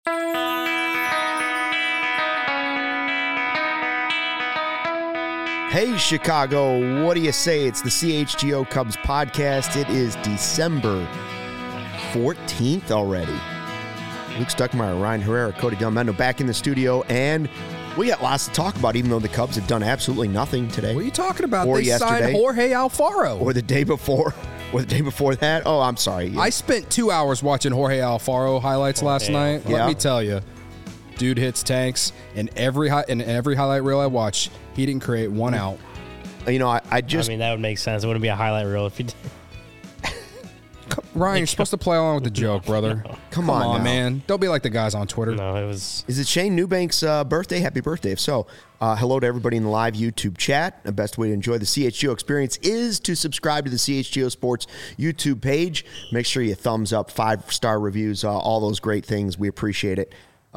Hey, Chicago, what do you say? It's the CHGO Cubs podcast. It is December 14th already. Luke Stuckmeyer, Ryan Herrera, Cody Delmendo back in the studio, and we got lots to talk about, even though the Cubs have done absolutely nothing today. What are you talking about? Or they signed Jorge Alfaro. Or the day before. Or the day before that. Oh, I'm sorry. Yeah. I spent 2 hours watching Jorge Alfaro highlights last night. Let me tell you, dude hits tanks, and every highlight reel I watch, he didn't create one out. You know, I mean, that would make sense. It wouldn't be a highlight reel if you did. Ryan, you're supposed to play along with the joke, brother. No. Come on, man. Don't be like the guys on Twitter. No, it was... Is it Shane Newbank's birthday? Happy birthday. If so, hello to everybody in the live YouTube chat. The best way to enjoy the CHGO experience is to subscribe to the CHGO Sports YouTube page. Make sure you thumbs up, 5-star reviews, all those great things. We appreciate it.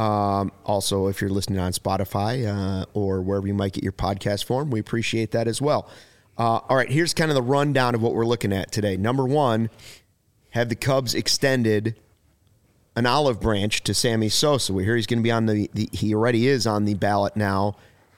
Also, if you're listening on Spotify or wherever you might get your podcast form, we appreciate that as well. All right, here's kind of the rundown of what we're looking at today. Number one, have the Cubs extended an olive branch to Sammy Sosa. We hear he's going to be on he already is on the ballot now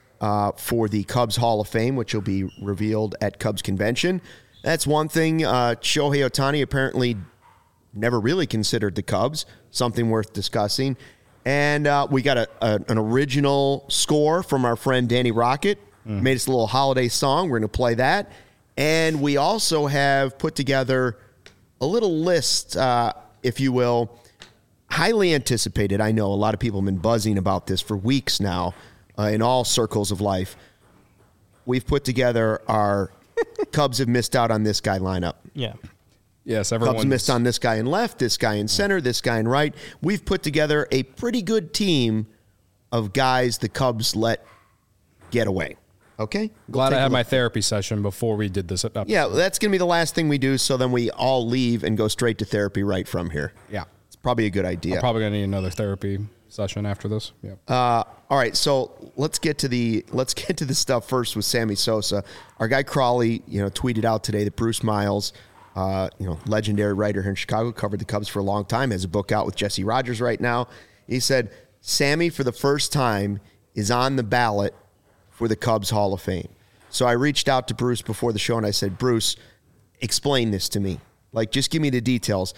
for the Cubs Hall of Fame, which will be revealed at Cubs Convention. That's one thing. Shohei Ohtani apparently never really considered the Cubs, something worth discussing. And we got an original score from our friend Danny Rocket. Made us a little holiday song. We're going to play that. And we also have put together a little list, if you will, highly anticipated. I know a lot of people have been buzzing about this for weeks now in all circles of life. We've put together our Cubs have missed out on this guy lineup. Yeah. Yes, everyone's... Cubs missed on this guy in left, this guy in center, this guy in right. We've put together a pretty good team of guys the Cubs let get away. Okay? Glad I had my therapy session before we did this episode. Yeah, that's going to be the last thing we do, so then we all leave and go straight to therapy right from here. Yeah. It's probably a good idea. I'm probably going to need another therapy session after this. Yep. All right, so let's get to the stuff first with Sammy Sosa. Our guy Crawley, tweeted out today that Bruce Miles, legendary writer here in Chicago, covered the Cubs for a long time, has a book out with Jesse Rogers right now. He said, Sammy, for the first time, is on the ballot for the Cubs Hall of Fame. So I reached out to Bruce before the show and I said, Bruce, explain this to me. Like, just give me the details.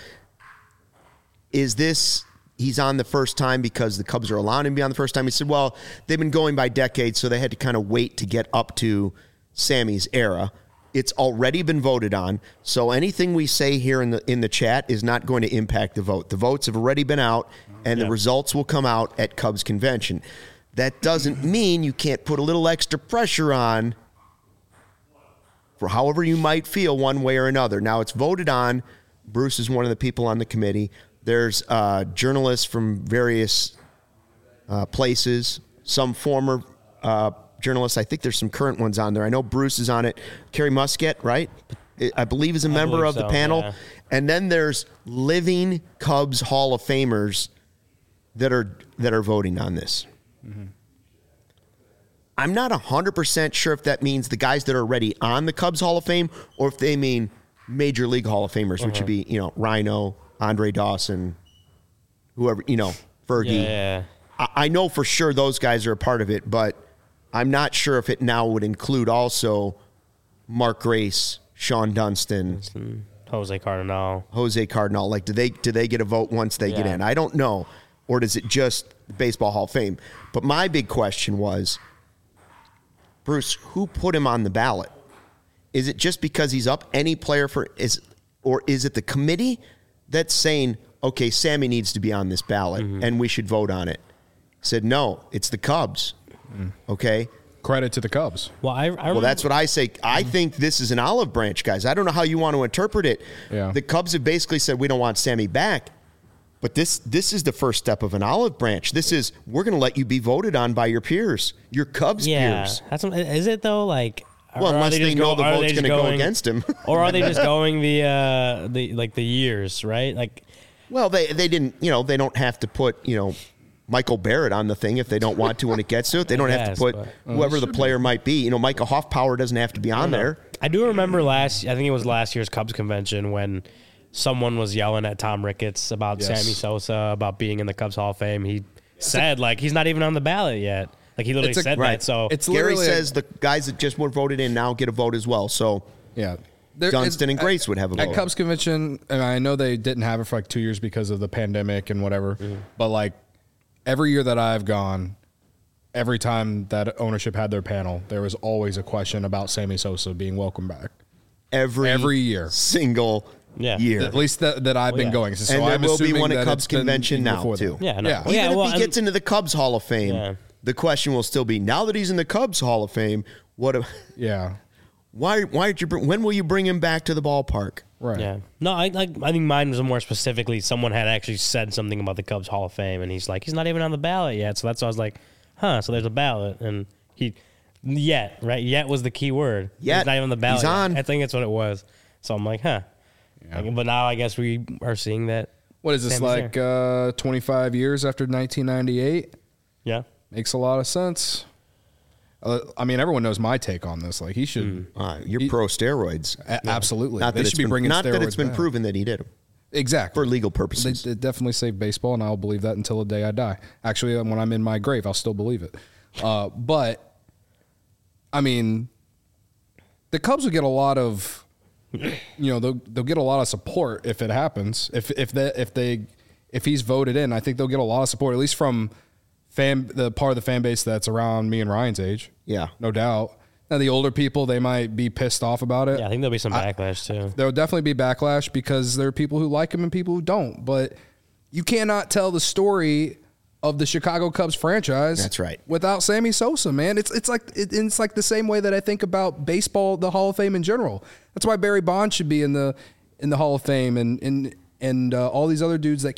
Is this, he's on the first time because the Cubs are allowing him to be on the first time? He said, well, they've been going by decades, so they had to kind of wait to get up to Sammy's era. It's already been voted on, so anything we say here in the chat is not going to impact the vote. The votes have already been out, and the results will come out at Cubs Convention. That doesn't mean you can't put a little extra pressure on for however you might feel one way or another. Now, it's voted on. Bruce is one of the people on the committee. There's journalists from various places, some former journalists. I think there's some current ones on there. I know Bruce is on it. Kerry Muscat, right? I believe is a member of the panel. Yeah. And then there's living Cubs Hall of Famers that are voting on this. Mm-hmm. I'm not 100% sure if that means the guys that are already on the Cubs Hall of Fame or if they mean Major League Hall of Famers, which would be, Rhino, Andre Dawson, whoever, Fergie. Yeah. I know for sure those guys are a part of it, but I'm not sure if it now would include also Mark Grace, Sean Dunston, Jose Cardinal. Like, do they get a vote once they get in? I don't know. Or does it just the Baseball Hall of Fame? But my big question was, Bruce, who put him on the ballot? Is it just because he's up? Any player or is it the committee that's saying, okay, Sammy needs to be on this ballot and we should vote on it? Said, no, it's the Cubs. Okay? Credit to the Cubs. Well, that's what I say. I think this is an olive branch, guys. I don't know how you want to interpret it. Yeah. The Cubs have basically said, we don't want Sammy back. But this is the first step of an olive branch. This is, we're going to let you be voted on by your peers, your Cubs peers. Is it though? Like, well, unless they know the vote's going to go against him, or are they just going the years, right? Like, well, they didn't. They don't have to put Michael Barrett on the thing if they don't want to when it gets to it. They don't have to put whoever the player might be. Micah Hoffpower doesn't have to be on there. I do remember I think it was last year's Cubs convention when someone was yelling at Tom Ricketts about Sammy Sosa, about being in the Cubs Hall of Fame. He said, like, he's not even on the ballot yet. Like, he literally said that. So it's Gary says the guys that just were voted in now get a vote as well. So yeah, Dunston and Grace would have a vote. At Cubs convention, and I know they didn't have it for like 2 years because of the pandemic and whatever, but like every year that I've gone, every time that ownership had their panel, there was always a question about Sammy Sosa being welcome back. Every year. Single year. At least that I've been going. So and there I'm will be assuming one that at Cubs convention now, too. Yeah, no. Yeah. Even if he gets into the Cubs Hall of Fame, the question will still be, now that he's in the Cubs Hall of Fame, why did you when will you bring him back to the ballpark? Right. Yeah. No, I think mine was more specifically someone had actually said something about the Cubs Hall of Fame, and he's like, he's not even on the ballot yet. So that's why I was like, so there's a ballot. And yet was the key word. Yet. He's not even on the ballot. He's on. I think that's what it was. So I'm like, Yeah. But now I guess we are seeing that. What is this, like 25 years after 1998? Yeah. Makes a lot of sense. I mean, everyone knows my take on this. Like, he should. You're pro steroids. Absolutely. Not they that should be bringing not steroids that it's been back. proven that he did them. Exactly. For legal purposes. They definitely saved baseball, and I'll believe that until the day I die. Actually, when I'm in my grave, I'll still believe it. But, I mean, the Cubs would get a lot of, they'll get a lot of support if it happens. If he's voted in, I think they'll get a lot of support, at least from the part of the fan base that's around me and Ryan's age. Yeah. No doubt. Now, the older people, they might be pissed off about it. Yeah, I think there'll be some backlash, too. There will definitely be backlash because there are people who like him and people who don't. But you cannot tell the story of the Chicago Cubs franchise. That's right. Without Sammy Sosa, man. It's like the same way that I think about baseball, the Hall of Fame in general. That's why Barry Bonds should be in the Hall of Fame, and all these other dudes that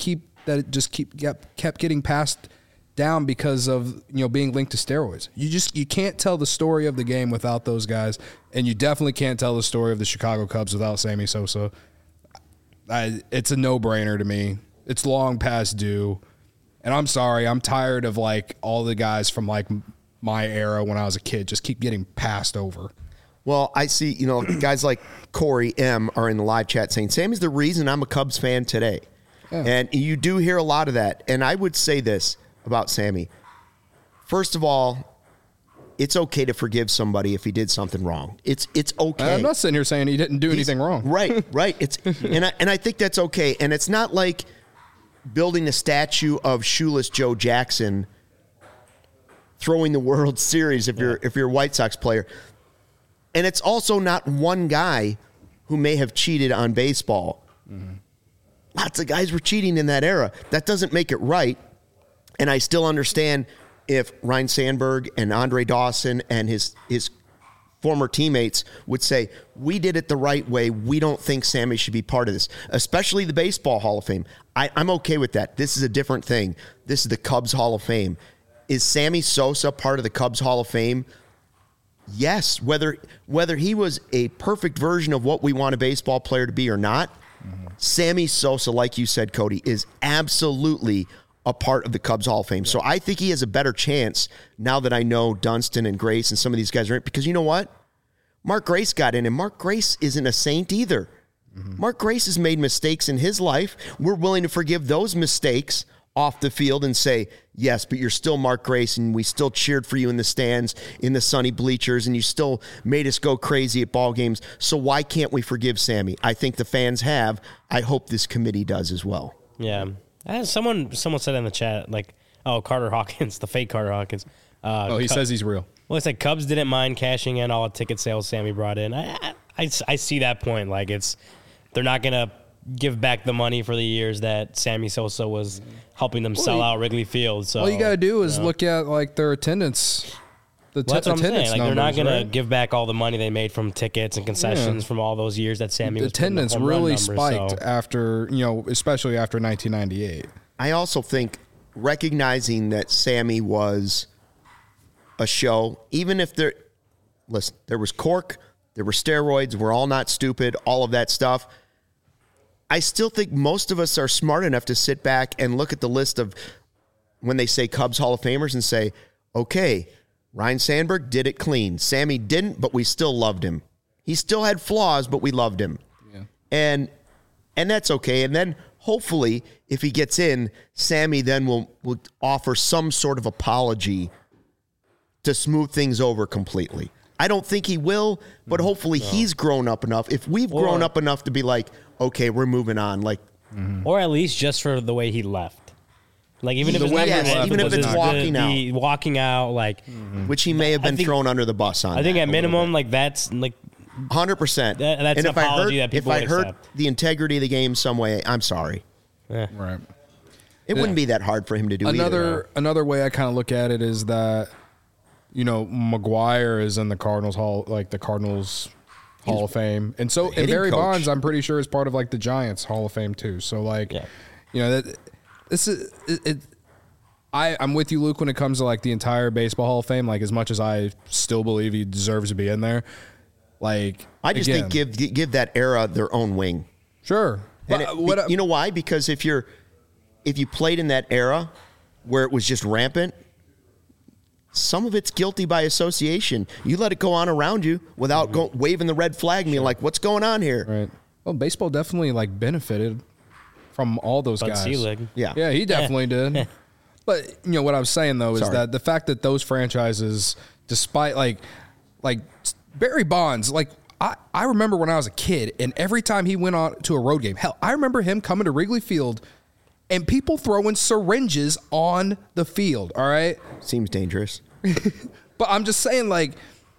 kept getting passed down because of being linked to steroids. You can't tell the story of the game without those guys, and you definitely can't tell the story of the Chicago Cubs without Sammy Sosa. It's a no-brainer to me. It's long past due, and I'm sorry. I'm tired of like all the guys from like my era when I was a kid just keep getting passed over. Well, I see, guys like Corey M are in the live chat saying, Sammy's the reason I'm a Cubs fan today. Yeah. And you do hear a lot of that. And I would say this about Sammy. First of all, it's okay to forgive somebody if he did something wrong. It's okay. I'm not sitting here saying he didn't do anything wrong. Right. It's and I think that's okay. And it's not like building a statue of shoeless Joe Jackson throwing the World Series if you're a White Sox player. And it's also not one guy who may have cheated on baseball. Mm-hmm. Lots of guys were cheating in that era. That doesn't make it right. And I still understand if Ryne Sandberg and Andre Dawson and his former teammates would say, we did it the right way. We don't think Sammy should be part of this, especially the Baseball Hall of Fame. I'm okay with that. This is a different thing. This is the Cubs Hall of Fame. Is Sammy Sosa part of the Cubs Hall of Fame? Yes, whether he was a perfect version of what we want a baseball player to be or not, Sammy Sosa, like you said, Cody, is absolutely a part of the Cubs Hall of Fame. So I think he has a better chance now that I know Dunston and Grace and some of these guys are in. Because you know what? Mark Grace got in, and Mark Grace isn't a saint either. Mm-hmm. Mark Grace has made mistakes in his life. We're willing to forgive those mistakes off the field and say, yes, but you're still Mark Grace, and we still cheered for you in the stands, in the sunny bleachers, and you still made us go crazy at ball games. So why can't we forgive Sammy? I think the fans have. I hope this committee does as well. Yeah. Someone said in the chat, like, Carter Hawkins, the fake Carter Hawkins. He says he's real. Well, it's like Cubs didn't mind cashing in all the ticket sales Sammy brought in. I see that point. Like, they're not going to give back the money for the years that Sammy Sosa was helping them sell out Wrigley Field. So all you got to do is look at like their attendance. That's what I'm saying. Like, they're not going to give back all the money they made from tickets and concessions from all those years that Sammy was putting up attendance home run really numbers, spiked after, especially after 1998. I also think recognizing that Sammy was a show, even if there was cork, there were steroids, we're all not stupid, all of that stuff. I still think most of us are smart enough to sit back and look at the list of when they say Cubs Hall of Famers and say, okay, Ryne Sandberg did it clean. Sammy didn't, but we still loved him. He still had flaws, but we loved him. Yeah. And And that's okay. And then hopefully, if he gets in, Sammy then will offer some sort of apology to smooth things over completely. I don't think he will, but hopefully he's grown up enough. If we've grown up enough to be like, okay, we're moving on. Like, or at least just for the way he left. Like even if The it's way not he left, even if it's walking out, like which he may have been thrown under the bus on. I think that at a minimum, like that's like 100%. That's an apology that people if I would hurt accept. the integrity of the game some way, I'm sorry. Right. It wouldn't be that hard for him to do either. Another way I kind of look at it is that, you know, McGuire is in the Cardinals Hall of Fame, and so and Barry coach. Bonds, I'm pretty sure, is part of like the Giants Hall of Fame too. So like, you know, this is it. I'm with you, Luke, when it comes to like the entire baseball Hall of Fame. Like, as much as I still believe he deserves to be in there, like I just think give that era their own wing. Sure. And you know why? Because if you played in that era where it was just rampant, some of it's guilty by association. You let it go on around you without waving the red flag and being like, what's going on here? Right. Well, baseball definitely like benefited from all those guys. Selig. Yeah, he definitely did. But you know what I'm saying though is that the fact that those franchises, despite like Barry Bonds, like I remember when I was a kid, and every time he went on to a road game, hell, I remember him coming to Wrigley Field and people throwing syringes on the field. All right, seems dangerous. But I'm just saying, like,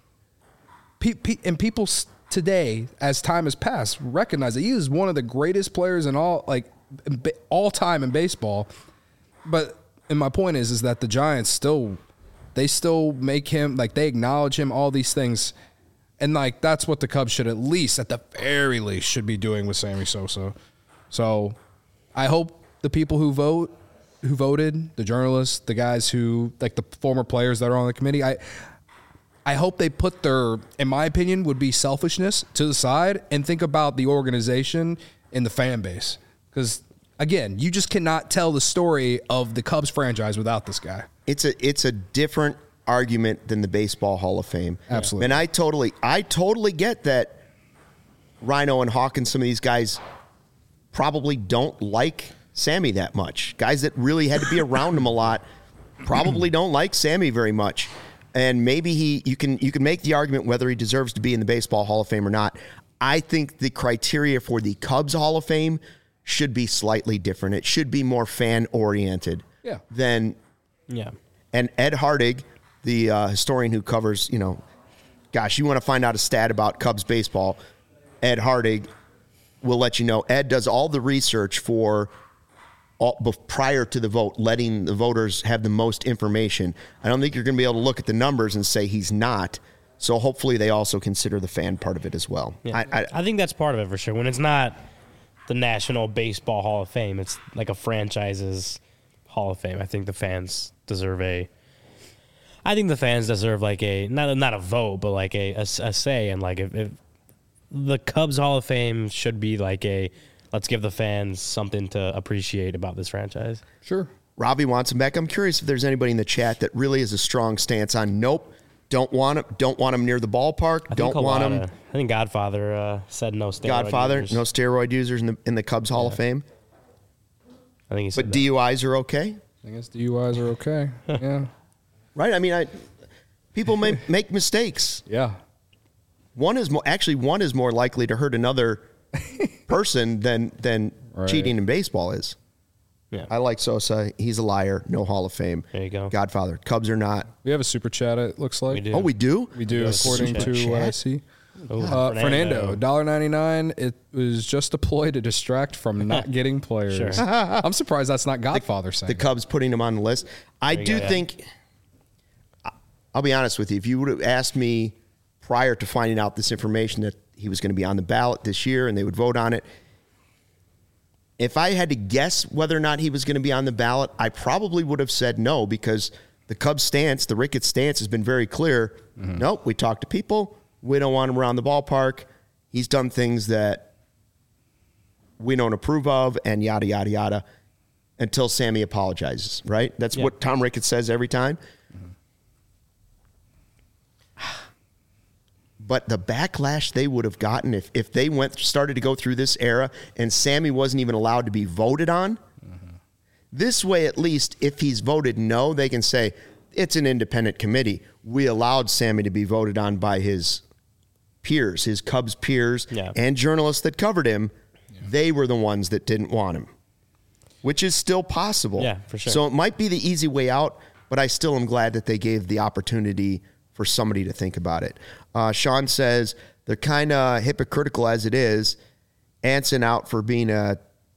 and people today, as time has passed, recognize that he is one of the greatest players in all time in baseball. But and my point is that the Giants still make him, like, they acknowledge him, all these things. And, like, that's what the Cubs should, at the very least, should be doing with Sammy Sosa. So I hope the people who voted, the journalists, the guys who, like, the former players that are on the committee, I hope they put their, in my opinion, would be selfishness to the side and think about the organization and the fan base. Because, again, you just cannot tell the story of the Cubs franchise without this guy. It's a different argument than the Baseball Hall of Fame. Absolutely. And I totally get that Rhino and Hawkins, some of these guys probably don't like Sammy that much. Guys that really had to be around him a lot probably don't like Sammy very much. And maybe you can make the argument whether he deserves to be in the Baseball Hall of Fame or not. I think the criteria for the Cubs Hall of Fame should be slightly different. It should be more fan-oriented than And Ed Hardig, the historian who covers, you want to find out a stat about Cubs baseball, Ed Hardig will let you know. Ed does all the research for prior to the vote, letting the voters have the most information. I don't think you're going to be able to look at the numbers and say he's not. So hopefully they also consider the fan part of it as well. Yeah. I think that's part of it for sure. When it's not the National Baseball Hall of Fame, it's like a franchise's Hall of Fame. I think the fans deserve like a not a vote, but like a say. And like if the Cubs Hall of Fame should be like let's give the fans something to appreciate about this franchise. Sure. Robbie wants him back. I'm curious if there's anybody in the chat that really has a strong stance on nope, don't want him near the ballpark. I think Godfather said no steroid users. No steroid users in the Cubs Hall of Fame. I think he said but DUIs are okay. I guess DUIs are okay. Yeah. Right. I mean, people make mistakes. Yeah. One is more likely to hurt another person than cheating in baseball is. Yeah. I like Sosa. He's a liar. No Hall of Fame. There you go. Godfather. Cubs are not. We have a super chat, it looks like. We do. Oh, we do? We do, according to what I see. Oh, Fernando, $1.99. It was just a ploy to distract from not getting players. Sure. I'm surprised that's not Godfather saying the Cubs putting him on the list. I do think, I'll be honest with you, if you would have asked me prior to finding out this information that he was going to be on the ballot this year and they would vote on it, if I had to guess whether or not he was going to be on the ballot, I probably would have said no, because the Cubs stance, the Ricketts stance, has been very clear. Mm-hmm. Nope, we talked to people. We don't want him around the ballpark. He's done things that we don't approve of, and yada, yada, yada, until Sammy apologizes, right? That's what Tom Ricketts says every time. Mm-hmm. But the backlash they would have gotten if they started to go through this era and Sammy wasn't even allowed to be voted on. This way, at least, if he's voted no, they can say, it's an independent committee. We allowed Sammy to be voted on by his peers, his Cubs peers, and journalists that covered him. Yeah. They were the ones that didn't want him, which is still possible. Yeah, for sure. So it might be the easy way out, but I still am glad that they gave the opportunity for somebody to think about it. Sean says they're kind of hypocritical as it is. Anson out for being a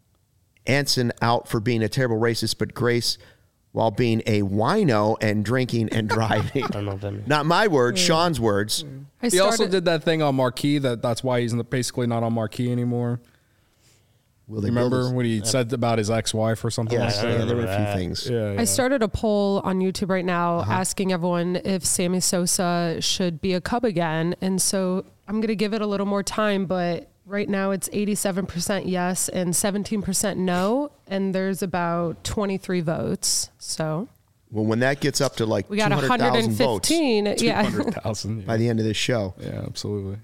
terrible racist, but Grace while being a wino and drinking and driving. I don't know what that means. Not my words, Sean's words. He also did that thing on Marquee. That's why he's basically not on Marquee anymore. Will they remember what he said about his ex-wife or something? Yes, like that? There were a few things. I started a poll on YouTube right now asking everyone if Sammy Sosa should be a Cub again. And so I'm going to give it a little more time, but right now it's 87% yes and 17% no. And there's about 23 votes. So. Well, when that gets up to like we got 200,000 votes. 215. By the end of this show. Yeah, absolutely.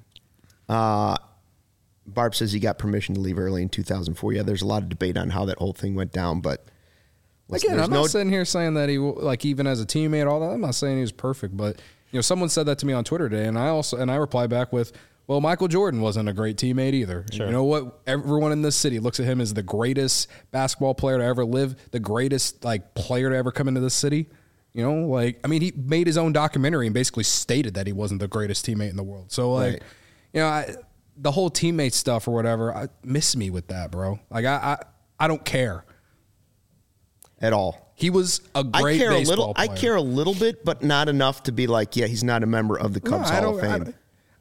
Barb says he got permission to leave early in 2004. Yeah, there's a lot of debate on how that whole thing went down, but again, I'm not sitting here saying that he, like, even as a teammate, all that. I'm not saying he was perfect, but someone said that to me on Twitter today, and I replied back with, well, Michael Jordan wasn't a great teammate either. Sure. You know what? Everyone in this city looks at him as the greatest basketball player to ever live, the greatest player to ever come into this city. He made his own documentary and basically stated that he wasn't the greatest teammate in the world. So the whole teammate stuff or whatever, miss me with that, bro. I don't care at all. He was a great baseball player. I care a little bit, but not enough to be like, yeah, he's not a member of the Cubs Hall of Fame.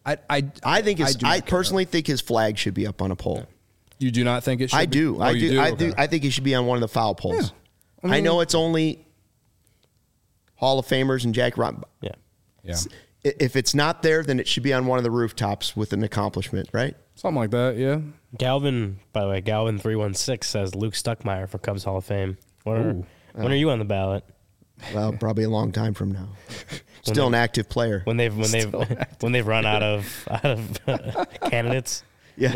I personally think his flag should be up on a pole. You do not think it should? I do. I do. Okay. I think he should be on one of the foul poles. Yeah. I know it's only Hall of Famers and Jack Robinson. Yeah. If it's not there, then it should be on one of the rooftops with an accomplishment, right? Something like that, yeah. Galvin 316 says Luke Stuckmeyer for Cubs Hall of Fame. When are you on the ballot? Well, probably a long time from now. Still an active player. When they've run out of candidates. Yeah,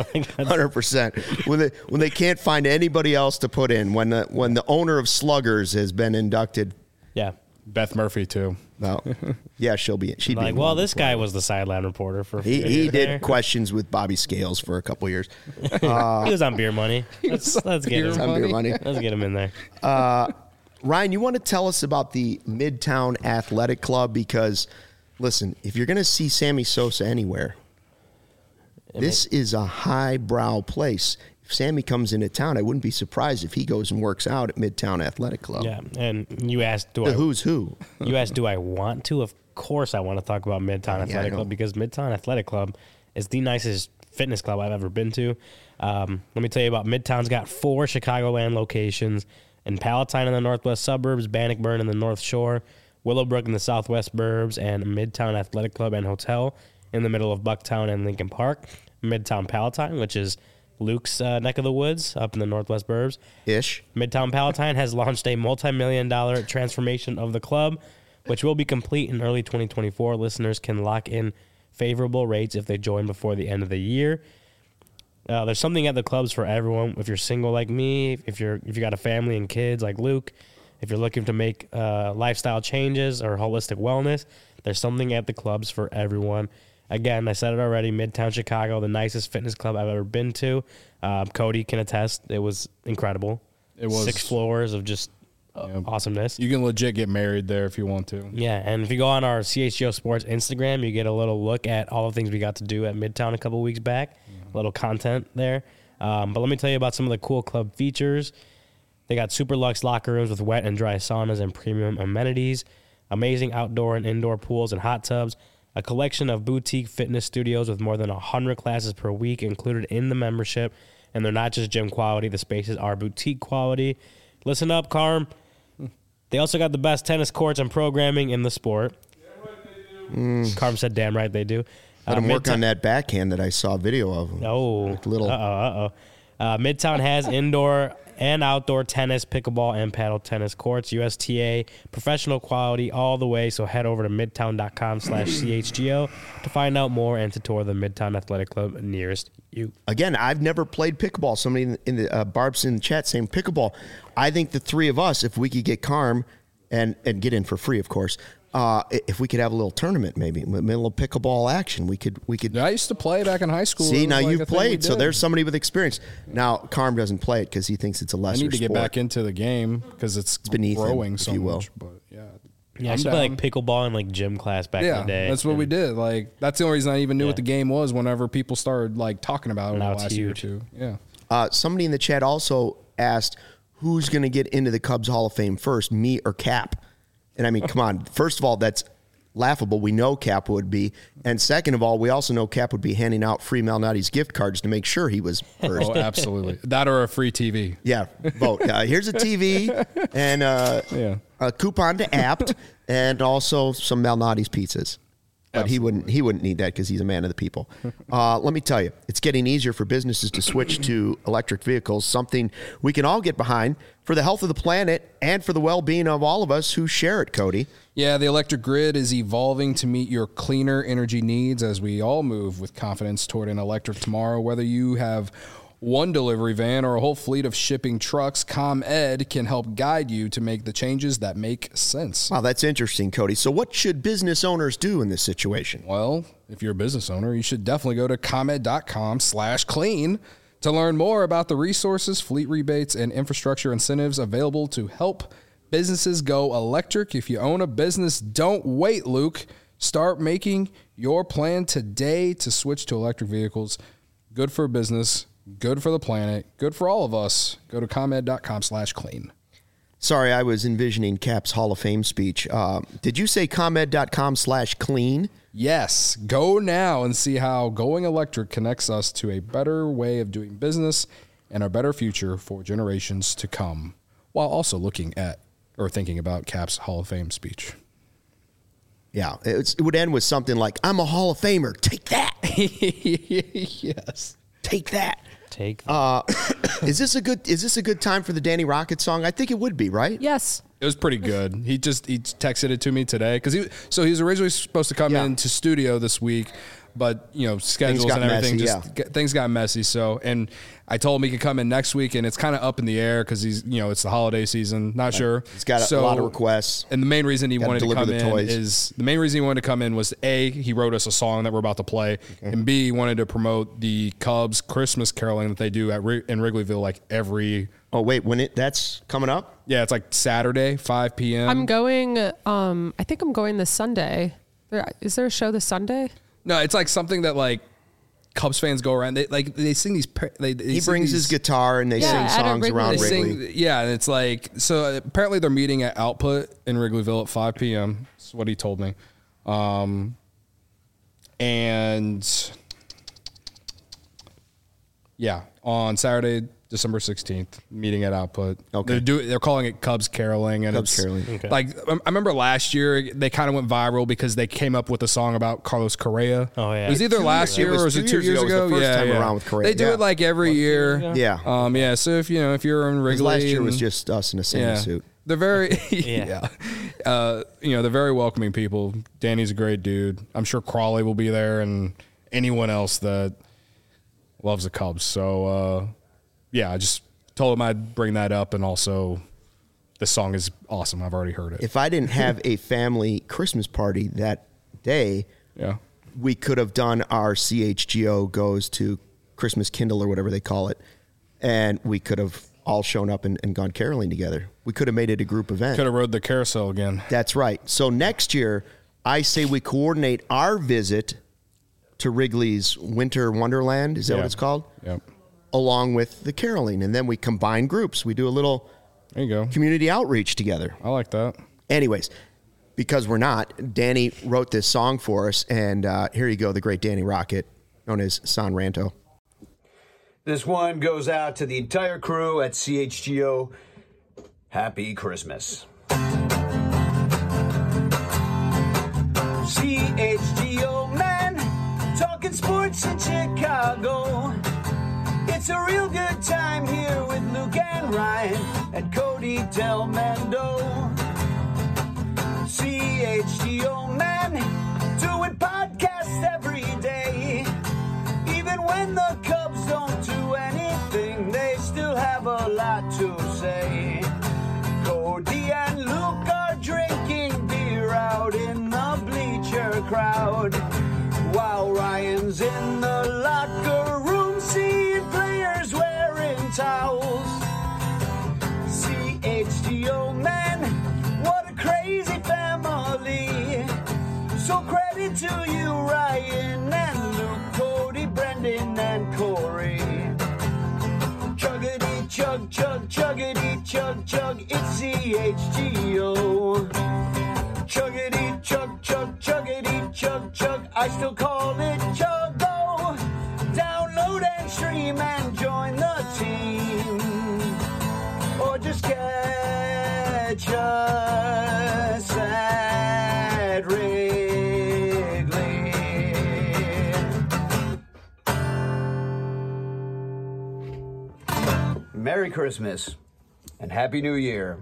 100%. When they can't find anybody else to put in. When the owner of Sluggers has been inducted. Yeah. Beth Murphy too. No, yeah, she'd be. Well, this guy was the sideline reporter for. He did questions with Bobby Scales for a couple years. He was on Beer Money. Let's get him. On Beer Money. Let's get him in there. Ryan, you want to tell us about the Midtown Athletic Club? Because, listen, if you're going to see Sammy Sosa anywhere, this is a highbrow place. If Sammy comes into town, I wouldn't be surprised if he goes and works out at Midtown Athletic Club. Yeah, and you asked, who's who? You asked, do I want to? Of course I want to talk about Midtown Athletic Club because Midtown Athletic Club is the nicest fitness club I've ever been to. Let me tell you about Midtown's got 4 Chicagoland locations in Palatine in the northwest suburbs, Bannockburn in the North Shore, Willowbrook in the southwest burbs, and Midtown Athletic Club and Hotel in the middle of Bucktown and Lincoln Park. Midtown Palatine, which is Luke's neck of the woods up in the northwest burbs. Midtown Palatine has launched a multi-million-dollar transformation of the club, which will be complete in early 2024. Listeners can lock in favorable rates if they join before the end of the year. There's something at the clubs for everyone. If you're single like me, if you got a family and kids like Luke, if you're looking to make lifestyle changes or holistic wellness, there's something at the clubs for everyone. Again, I said it already, Midtown Chicago, the nicest fitness club I've ever been to. Cody can attest. It was incredible. It was 6 floors of just awesomeness. You can legit get married there if you want to. Yeah, and if you go on our CHGO Sports Instagram, you get a little look at all the things we got to do at Midtown a couple weeks back. A little content there. But let me tell you about some of the cool club features. They got super luxe locker rooms with wet and dry saunas and premium amenities, amazing outdoor and indoor pools and hot tubs, a collection of boutique fitness studios with more than 100 classes per week included in the membership. And they're not just gym quality. The spaces are boutique quality. Listen up, Carm. They also got the best tennis courts and programming in the sport. Carm said, damn right they do. Let him work on that backhand that I saw a video of. Oh. Midtown has indoor and outdoor tennis, pickleball, and paddle tennis courts. USTA, professional quality all the way. So head over to midtown.com/CHGO to find out more and to tour the Midtown Athletic Club nearest you. Again, I've never played pickleball. Somebody in the Barb's in the chat saying pickleball. I think the three of us, if we could get Carm and get in for free, of course. If we could have a little tournament, maybe a little pickleball action, we could. I used to play back in high school. See, now you've played, so there's somebody with experience. Now Carm doesn't play it because he thinks it's a lesser. I need to get sport. back into the game because it's beneath growing him, so if you will. much. But yeah, I used to play like pickleball in like gym class back in the day. That's what we did. Like that's the only reason I even knew what the game was. Whenever people started like talking about it Now the it's last year or huge. two. Yeah. Somebody in the chat also asked, "Who's going to get into the Cubs Hall of Fame first, me or Cap?" And I mean, come on. First of all, that's laughable. We know Cap would be. And second of all, we also know Cap would be handing out free Malnati's gift cards to make sure he was first. Oh, absolutely. That or a free TV. Yeah, vote. Here's a TV and a coupon to Apt and also some Malnati's pizzas. But he wouldn't need that because he's a man of the people. Let me tell you, it's getting easier for businesses to switch to electric vehicles, something we can all get behind for the health of the planet and for the well-being of all of us who share it, Cody. Yeah, the electric grid is evolving to meet your cleaner energy needs as we all move with confidence toward an electric tomorrow. Whether you have one delivery van or a whole fleet of shipping trucks, ComEd can help guide you to make the changes that make sense. Wow, that's interesting, Cody. So what should business owners do in this situation? Well, if you're a business owner, you should definitely go to ComEd.com/clean to learn more about the resources, fleet rebates, and infrastructure incentives available to help businesses go electric. If you own a business, don't wait, Luke. Start making your plan today to switch to electric vehicles. Good for business, good for the planet, good for all of us. Go to ComEd.com/clean. Sorry, I was envisioning Cap's Hall of Fame speech. Did you say ComEd.com/clean? Yes, go now and see how going electric connects us to a better way of doing business and a better future for generations to come, while also looking at or thinking about Cap's Hall of Fame speech. Yeah, it would end with something like, "I'm a Hall of Famer. Take that. Yes. Take that." Take that. Is this a good time for the Danny Rocket song? I think it would be, right? Yes. It was pretty good. He texted it to me today because he was originally supposed to come into studio this week, but schedules and everything things got messy. So, and I told him he could come in next week, and it's kind of up in the air because he's it's the holiday season. Not sure. He's got a lot of requests, and the main reason he wanted to come in was A, he wrote us a song that we're about to play, and B, he wanted to promote the Cubs Christmas caroling that they do in Wrigleyville like every. Oh wait, that's coming up? Yeah, it's like Saturday, 5 p.m. I'm going. I think I'm going this Sunday. Is there a show this Sunday? No, it's like something that like Cubs fans go around. They sing these. He brings his guitar and they sing songs around Wrigley. And it's like so. Apparently, they're meeting at Output in Wrigleyville at 5 p.m. That's what he told me. And yeah, on Saturday, December 16th, meeting at Output. Okay. They're calling it Cubs Caroling. And Cubs Caroling. Okay. Like, I remember last year, they kind of went viral because they came up with a song about Carlos Correa. Oh, yeah. It was either last year or was it 2 years ago? It was the first time around with Correa. They do it like every year. Yeah. So if you're in Wrigley. Last year was just us in a Santa suit. They're very, they're very welcoming people. Danny's a great dude. I'm sure Crawley will be there and anyone else that loves the Cubs. So, I just told him I'd bring that up, and also the song is awesome. I've already heard it. If I didn't have a family Christmas party that day, we could have done our CHGO goes to Christmas Kindle or whatever they call it, and we could have all shown up and gone caroling together. We could have made it a group event. Could have rode the carousel again. That's right. So next year, I say we coordinate our visit to Wrigley's Winter Wonderland. Is that what it's called? Yep. Along with the caroling, and then we combine groups. We do a little There you go. community outreach together. I like that. Anyways, because we're not, Danny wrote this song for us, and here you go, the great Danny Rocket, known as San Ranto. This one goes out to the entire crew at CHGO. Happy Christmas. CHGO, man, talking sports in Chicago. It's a real good time here with Luke and and Ryan and Cody Delmendo. CHGO man, doing podcasts every day. Even when the Cubs don't do anything, they still have a lot to say. Cody and Luke are drinking beer out in the bleacher crowd, while Ryan's in the locker room seeing players wearing towels. CHGO man, what a crazy family. So credit to you, Ryan and Luke, Cody, Brendan and Corey. Chuggity chug chug, chuggity chug chug, it's CHGO. Chuggity chug chug, chuggity chug chug, I still call it Chuggo. Download and stream and join the team, or just catch us at Wrigley. Merry Christmas and Happy New Year.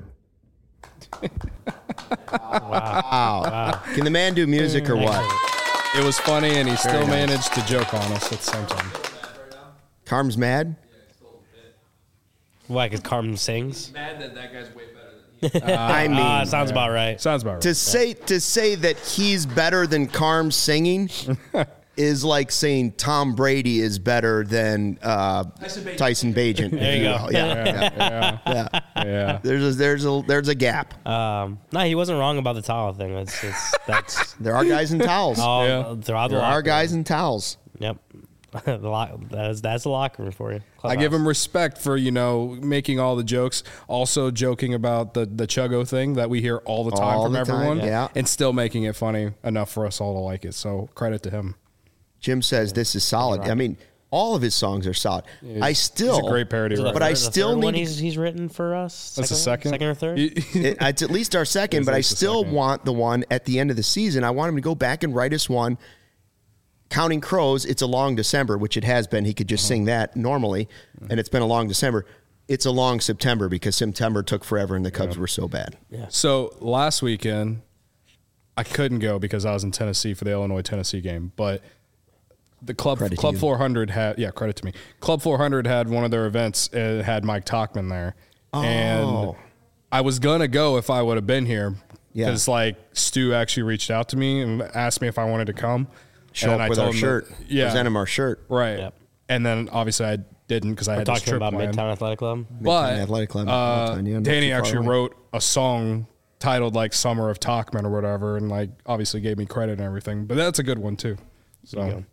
Wow. Can the man do music or what? It was funny, and he still nice. managed to joke on us at the same time. Carm's mad? Why? Because Carmen sings. Mad that guy's way better than he. I mean, Sounds about right. Sounds about right. to say that he's better than Carm singing is like saying Tom Brady is better than Tyson Bagent. There you go. Yeah. There's a gap. No, he wasn't wrong about the towel thing. That's There are guys in towels. all throughout the There locker are room. guys in towels. Yep. That's the locker room for you. I give him respect for, making all the jokes, also joking about the Chuggo thing that we hear all the time All from the time, everyone, yeah. and still making it funny enough for us all to like it. So credit to him. Jim says this is solid. I mean, all of his songs are solid. I still He's a great parody Is it writer. But I the still third one need- he's written for us. That's the second or third. it's at least our second, It's but I at least the still second. want the one at the end of the season. I want him to go back and write us one. Counting Crows, It's a Long December, which it has been. He could just sing that normally, and it's been a long December. It's a long September because September took forever and the Cubs were so bad. So last weekend, I couldn't go because I was in Tennessee for the Illinois-Tennessee game, but the Club Credit to Club you. 400 had, credit to me. Club 400 had one of their events. It had Mike Tachman there. And Oh. I was going to go if I would have been here Yeah. because, Stu actually reached out to me and asked me if I wanted to come. Show And up I with told our him shirt. that- yeah. Present him our shirt. Right. Yep. And then, obviously, I didn't because I We're had this talking trip about planned. Midtown Athletic Club. But Athletic Club. Midtown, yeah, not Danny too far actually away. wrote a song titled Summer of Tachman or whatever, and obviously gave me credit and everything. But that's a good one too. So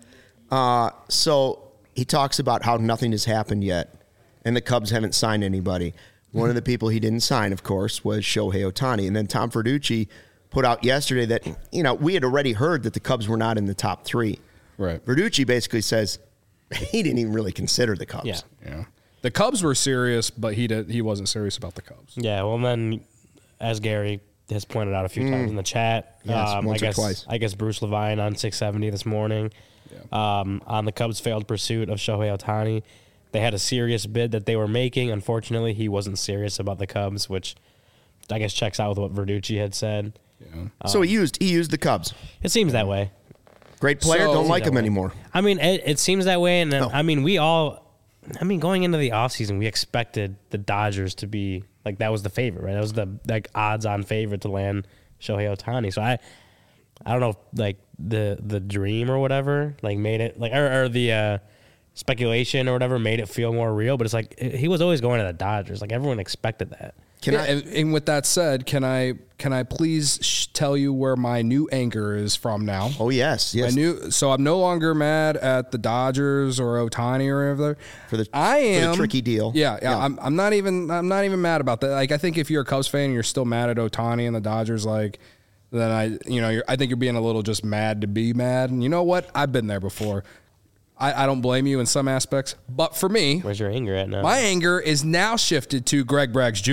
So he talks about how nothing has happened yet, and the Cubs haven't signed anybody. One of the people he didn't sign, of course, was Shohei Ohtani. And then Tom Verducci put out yesterday that, we had already heard that the Cubs were not in the top three. right, Verducci basically says he didn't even really consider the Cubs. Yeah. yeah. The Cubs were serious, but he wasn't serious about the Cubs. Yeah. Well, then, as Gary has pointed out a few times in the chat, Yes, once or twice. I guess Bruce Levine on 670 this morning, on the Cubs' failed pursuit of Shohei Ohtani. They had a serious bid that they were making. Unfortunately, he wasn't serious about the Cubs, which I guess checks out with what Verducci had said. Yeah. So he used the Cubs. It seems that way. Great player, So- don't like that him way. anymore. I mean, it seems that way. And then, Oh. going into the offseason, we expected the Dodgers to be that was the favorite, right? That was the odds-on favorite to land Shohei Ohtani. So I don't know if the dream or whatever made it or the speculation or whatever made it feel more real. But it's he was always going to the Dodgers. Everyone expected that. Can I? And with that said, can I please tell you where my new anger is from now? Oh yes. So I'm no longer mad at the Dodgers or Ohtani or whatever. For the tricky deal. Yeah. I'm not even mad about that. I think if you're a Cubs fan and you're still mad at Ohtani and the Dodgers, then I think you're being a little just mad to be mad. And you know what? I've been there before. I don't blame you in some aspects, but for me, Where's your anger at now? my anger is now shifted to Greg Braggs Jr.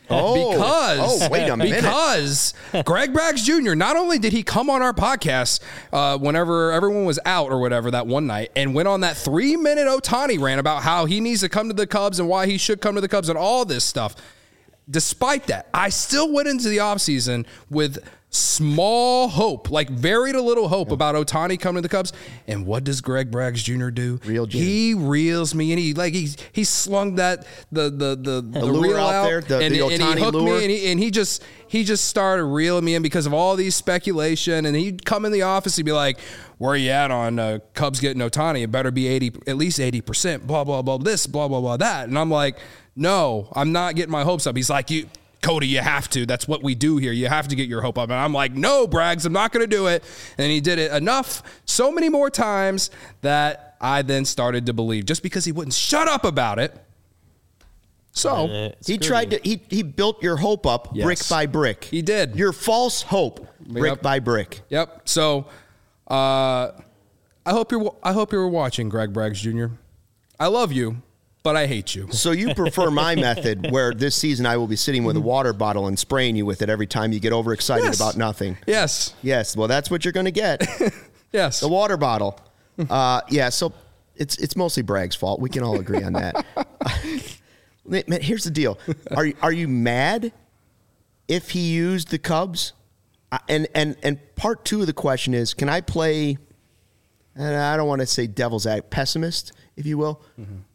Wait a minute. Because Greg Braggs Jr., not only did he come on our podcast whenever everyone was out or whatever that one night and went on that 3-minute Ohtani rant about how he needs to come to the Cubs and why he should come to the Cubs and all this stuff. Despite that, I still went into the offseason with small hope, like very little hope about Ohtani coming to the Cubs. And what does Greg Braggs Jr. do? He reels me, and he slung that the reel out there, and he hooked lure. me, and he just started reeling me in because of all these speculation. And he'd come in the office, he'd be like, "Where you at on Cubs getting Ohtani? It better be at least 80%. Blah blah blah. This blah blah blah that." And I'm like, "No, I'm not getting my hopes up." He's like, Cody, you have to. That's what we do here. You have to get your hope up. And I'm like, no, Braggs, I'm not going to do it. And he did it enough, so many more times that I then started to believe just because he wouldn't shut up about it. So he tried to, he built your hope up brick by brick. He did. Your false hope brick by brick. Yep. So I hope you're watching, Greg Braggs Jr. I love you, but I hate you. So you prefer my method where this season I will be sitting with a water bottle and spraying you with it every time you get overexcited about nothing. Yes. Yes. Well, that's what you're going to get. Yes. The water bottle. Yeah. So it's mostly Bragg's fault. We can all agree on that. Man, here's the deal. Are you mad if he used the Cubs? And part two of the question is, can I play, and I don't want to say devil's advocate, pessimist, if you will.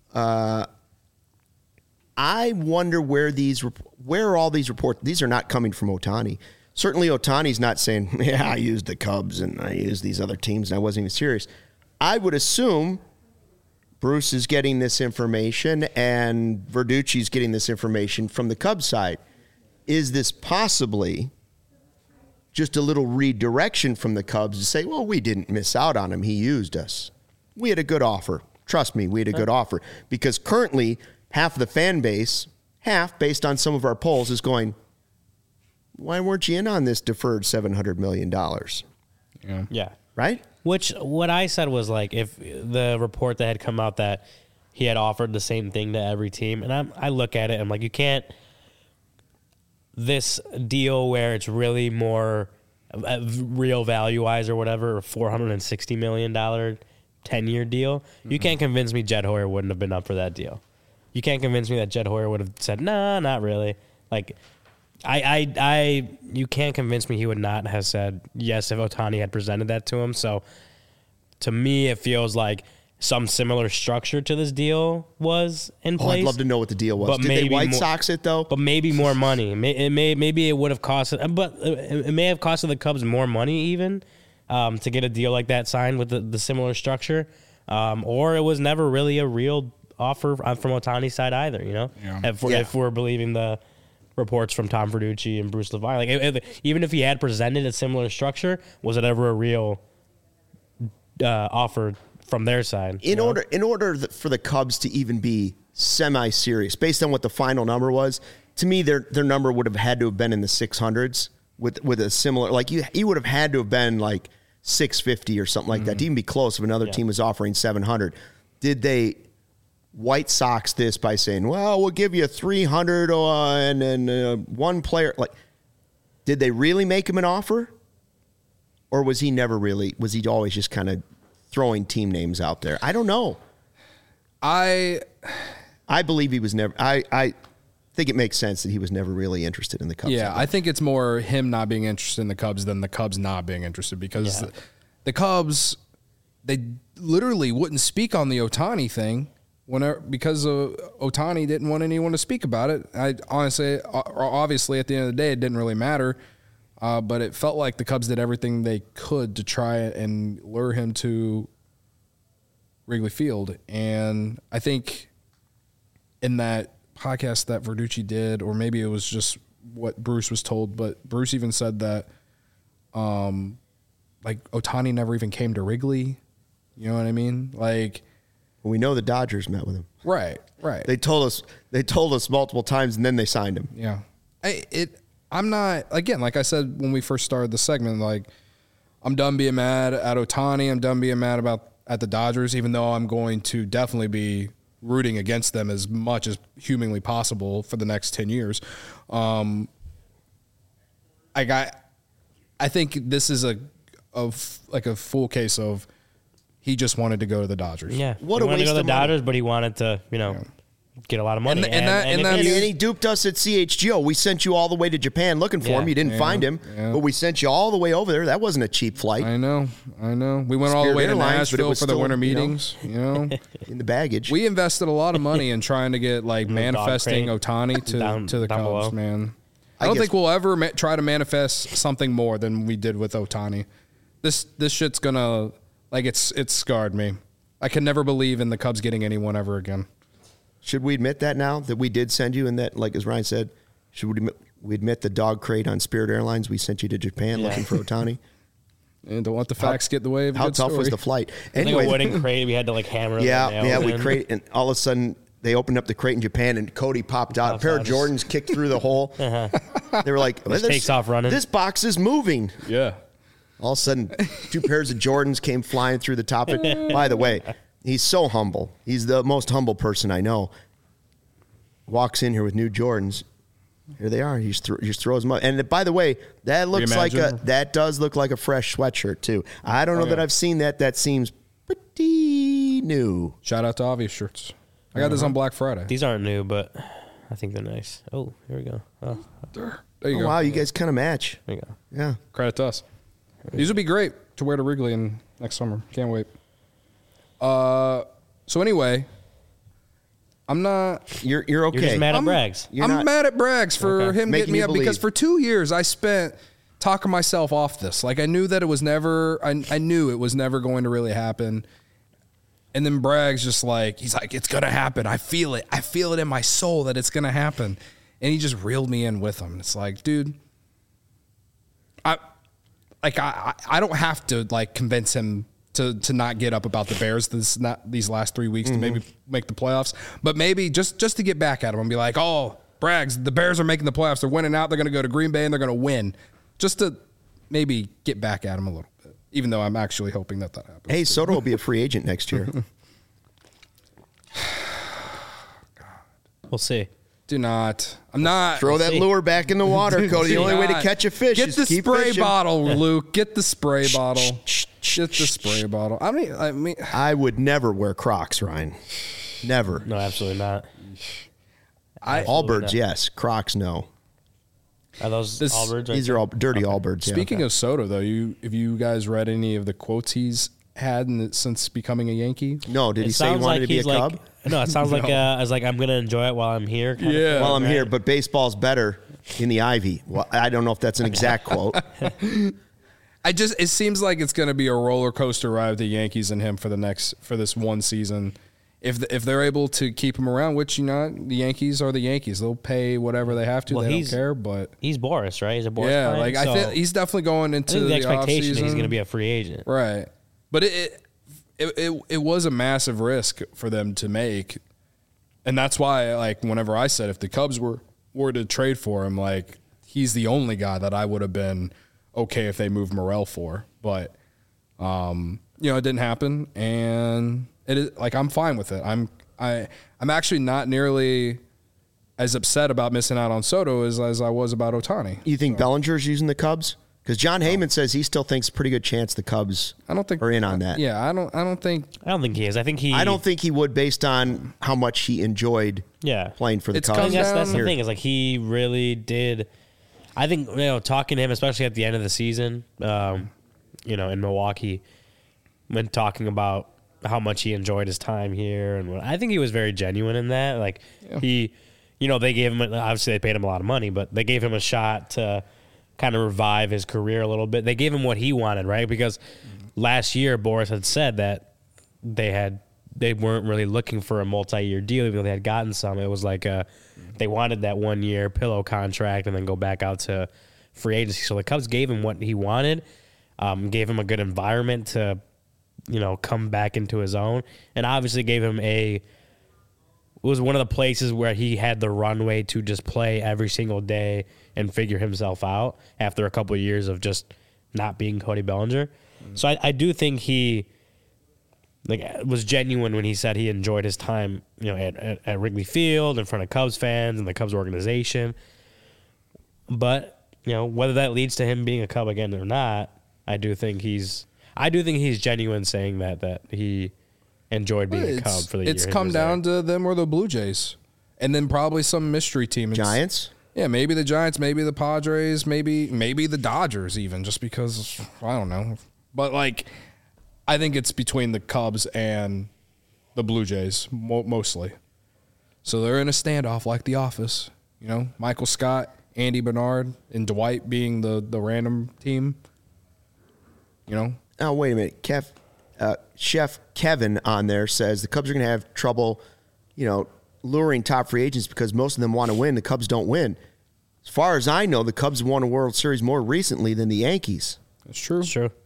I wonder where are all these reports? These are not coming from Ohtani. Certainly Ohtani's not saying, yeah, I used the Cubs and I used these other teams and I wasn't even serious. I would assume Bruce is getting this information and Verducci's getting this information from the Cubs side. Is this possibly just a little redirection from the Cubs to say, well, we didn't miss out on him. He used us. We had a good offer. Trust me, we had a good offer. Because currently, half of the fan base, based on some of our polls, is going, why weren't you in on this deferred $700 million? Yeah. Right? Which, what I said was like, if the report that had come out that he had offered the same thing to every team, and I look at it, I'm like, you can't, this deal where it's really more real value-wise or whatever, a $460 million 10-year deal, you can't convince me Jed Hoyer wouldn't have been up for that deal. You can't convince me that Jed Hoyer would have said, nah, not really. Like, you can't convince me he would not have said yes if Ohtani had presented that to him. So, to me, it feels like some similar structure to this deal was in place. I'd love to know what the deal was. But Did they White Sox it, though? But maybe more money. Maybe it would have cost, but it may have costed the Cubs more money even. To get a deal like that signed with the similar structure, or it was never really a real offer from Ohtani's side either, you know? Yeah. If we're believing the reports from Tom Verducci and Bruce Levine. Like, even if he had presented a similar structure, was it ever a real offer from their side? In order for the Cubs to even be semi-serious, based on what the final number was, to me, their number would have had to have been in the 600s with a similar, like you would have had to have been like 650 or something like that to even be close if another team was offering 700. Did they White Sox this by saying, well, we'll give you 300 and then one player? Like, did they really make him an offer? Or was he always just kind of throwing team names out there? I don't know. I believe he was never, I think it makes sense that he was never really interested in the Cubs. Yeah, I think it's more him not being interested in the Cubs than the Cubs not being interested, because the Cubs, they literally wouldn't speak on the Ohtani thing because Ohtani didn't want anyone to speak about it. Obviously, at the end of the day, it didn't really matter, but it felt like the Cubs did everything they could to try and lure him to Wrigley Field. And I think in that podcast that Verducci did, or maybe it was just what Bruce was told, but Bruce even said that like Ohtani never even came to Wrigley. You know what I mean? Like, we know the Dodgers met with him. Right. They told us multiple times, and then they signed him. Yeah. I'm not, again, like I said when we first started the segment, like, I'm done being mad at Ohtani. I'm done being mad at the Dodgers, even though I'm going to definitely be rooting against them as much as humanly possible for the next 10 years. I think this is a full case of he just wanted to go to the Dodgers. Yeah. What he a wanted to waste go to of the money. Dodgers, but he wanted to, get a lot of money. And And he duped us at CHGO. We sent you all the way to Japan looking for him. You didn't find him, but we sent you all the way over there. That wasn't a cheap flight I know. We went all the Spirit way to Airlines, but it Nashville was for the still, winter you know. meetings. in the baggage. We invested a lot of money in trying to get manifesting crate. Otani to the down Cubs, below. man. I I don't guess- think we'll ever try to manifest something more than we did with Otani. This shit's gonna it's scarred me. I can never believe in the Cubs getting anyone ever again. Should we admit that now that we did send you and that, like as Ryan said, should we admit the dog crate on Spirit Airlines? We sent you to Japan looking for Otani. And don't let the facts get in the way of a How good tough story. was the flight? I think Anyway, a wooden crate. We had to hammer the yeah, nails we in. crate, and all of a sudden they opened up the crate in Japan, and Cody popped out. A pair of out. Jordans kicked through the hole. They were like, Just takes off running. This box is moving. Yeah. All of a sudden, 2 pairs of Jordans came flying through the top of it. By the way, he's so humble. He's the most humble person I know. Walks in here with new Jordans. Here they are. He just throws them up. And by the way, that looks Reimagine? that does look like a fresh sweatshirt too. I don't know that I've seen that. That seems pretty new. Shout out to Obvious Shirts. I got this on Black Friday. These aren't new, but I think they're nice. Oh, here we go. Oh, There you Oh, go. wow, you guys kind of match. there you go. Yeah. Credit to us. These would be great to wear to Wrigley in next summer. Can't wait. So anyway, I'm not. You're okay. You're just mad at Braggs. You're I'm not- mad at Braggs for Okay. him Making getting me you up because believe. for 2 years I spent talking myself off this. I knew that it was never. I knew it was never going to really happen. And then Bragg's just he's like, it's gonna happen. I feel it. I feel it in my soul that it's gonna happen. And he just reeled me in with him. It's like, dude, I don't have to convince him to not get up about the Bears these last 3 weeks to maybe make the playoffs, but maybe just to get back at him and be like, oh, Braggs, the Bears are making the playoffs. They're winning out. They're going to go to Green Bay and they're going to win. Just to maybe get back at him a little bit, even though I'm actually hoping that happens. Hey, Soto will be a free agent next year. We'll see. Do not. I'm not. Throw that see. lure back in the water, Cody. The only way to not. catch a fish Get is the keep spray fishing. bottle, Luke. Get the spray bottle. Get the spray bottle. I mean, I would never wear Crocs, Ryan. Never. No, absolutely not. Allbirds, not. yes. Crocs, no. Are those This- Allbirds? Right These are all dirty Allbirds. Yeah. speaking of Soto, though, have you guys read any of the quotes he's had since becoming a Yankee? No, did he say he sounds wanted to be a he's Cub? No, it sounds like I was I'm gonna enjoy it while I'm here. kind of Yeah. thing, Well, I'm right? here, but baseball's better in the Ivy. Well, I don't know if that's an exact quote. It seems like it's going to be a roller coaster ride with the Yankees and him for this one season. If they're able to keep him around, which the Yankees are the Yankees, they'll pay whatever they have to. Well, they don't he's- care, but He's Boris, right? He's a Boris. yeah, client, I so think he's definitely going I into think the the expectation that he's offseason. going to be a free agent. Right. But it was a massive risk for them to make. And that's why, whenever I said if the Cubs were to trade for him, he's the only guy that I would have been okay if they moved Morel for. But, it didn't happen. And it is I'm fine with it. I'm actually not nearly as upset about missing out on Soto as I was about Otani. You think Bellinger's using the Cubs? Because John Heyman says he still thinks a pretty good chance the Cubs I don't think are in on that. Yeah, I don't think I don't think he is. I think he. I don't think he would based on how much he enjoyed Yeah. playing for the It's Cubs. I think that's the Here. thing is he really did. I think talking to him, especially at the end of the season, in Milwaukee, when talking about how much he enjoyed his time here, and I think he was very genuine in that. He, they gave him obviously they paid him a lot of money, but they gave him a shot to kind of revive his career a little bit. They gave him what he wanted, right? Because last year Boris had said that they weren't really looking for a multi-year deal, even though they had gotten some. It was they wanted that 1 year pillow contract and then go back out to free agency. So the Cubs gave him what he wanted, gave him a good environment to, come back into his own, and obviously gave him it was one of the places where he had the runway to just play every single day and figure himself out after a couple of years of just not being Cody Bellinger. So I do think he was genuine when he said he enjoyed his time, at Wrigley Field in front of Cubs fans and the Cubs organization. But whether that leads to him being a Cub again or not, I do think he's genuine saying that he enjoyed being a Cub for the year. It's come down to them or the Blue Jays, and then probably some mystery team. Giants. Yeah, maybe the Giants, maybe the Padres, maybe the Dodgers even, just because, I don't know. But, I think it's between the Cubs and the Blue Jays, mostly. So they're in a standoff like The Office. Michael Scott, Andy Bernard, and Dwight being the random team. Oh, wait a minute. Chef Kevin on there says the Cubs are going to have trouble, luring top free agents because most of them want to win. The Cubs don't win. As far as I know, the Cubs won a World Series more recently than the Yankees. That's true. It's true.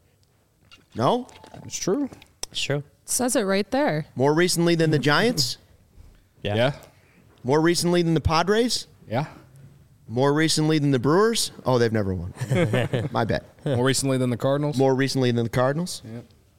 No? It's true. It's true. It says it right there. More recently than the Giants? Yeah. More recently than the Padres? Yeah. More recently than the Brewers? Oh, they've never won. My bad. More recently than the Cardinals? More recently than the Cardinals? Yeah.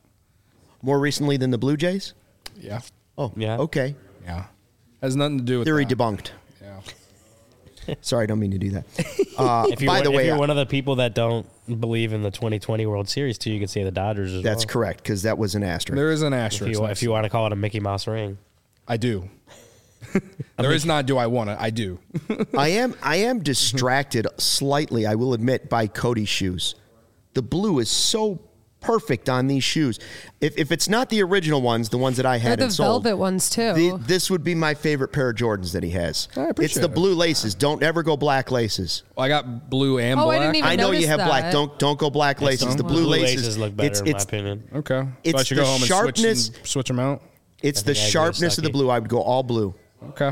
More recently than the Blue Jays? Yeah. Oh, Yeah. okay. Yeah. Has nothing to do with Theory that. debunked. Yeah. Sorry, I don't mean to do that. If you're, by the way, if you're one of the people that don't believe in the 2020 World Series, too, you could say the Dodgers as that's well. correct, because that was an asterisk. There is an asterisk. If you want to call it a Mickey Mouse ring. I do. There is not do I want it. I do. I am distracted slightly, I will admit, by Cody's shoes. The blue is so perfect on these shoes. If it's not the original ones, the ones that I They're had the and sold, velvet ones too. this would be my favorite pair of Jordans that he has. I appreciate It's the it. blue laces. Don't ever go black laces. I got blue and Oh, I black. didn't even I know you notice have black. that. Don't go black laces. The blue laces look better, in my opinion. Okay. So It's I should the go home and sharpness- switch them out. It's the think I agree with sharpness of the Stuckey. blue. I would go all blue. Okay.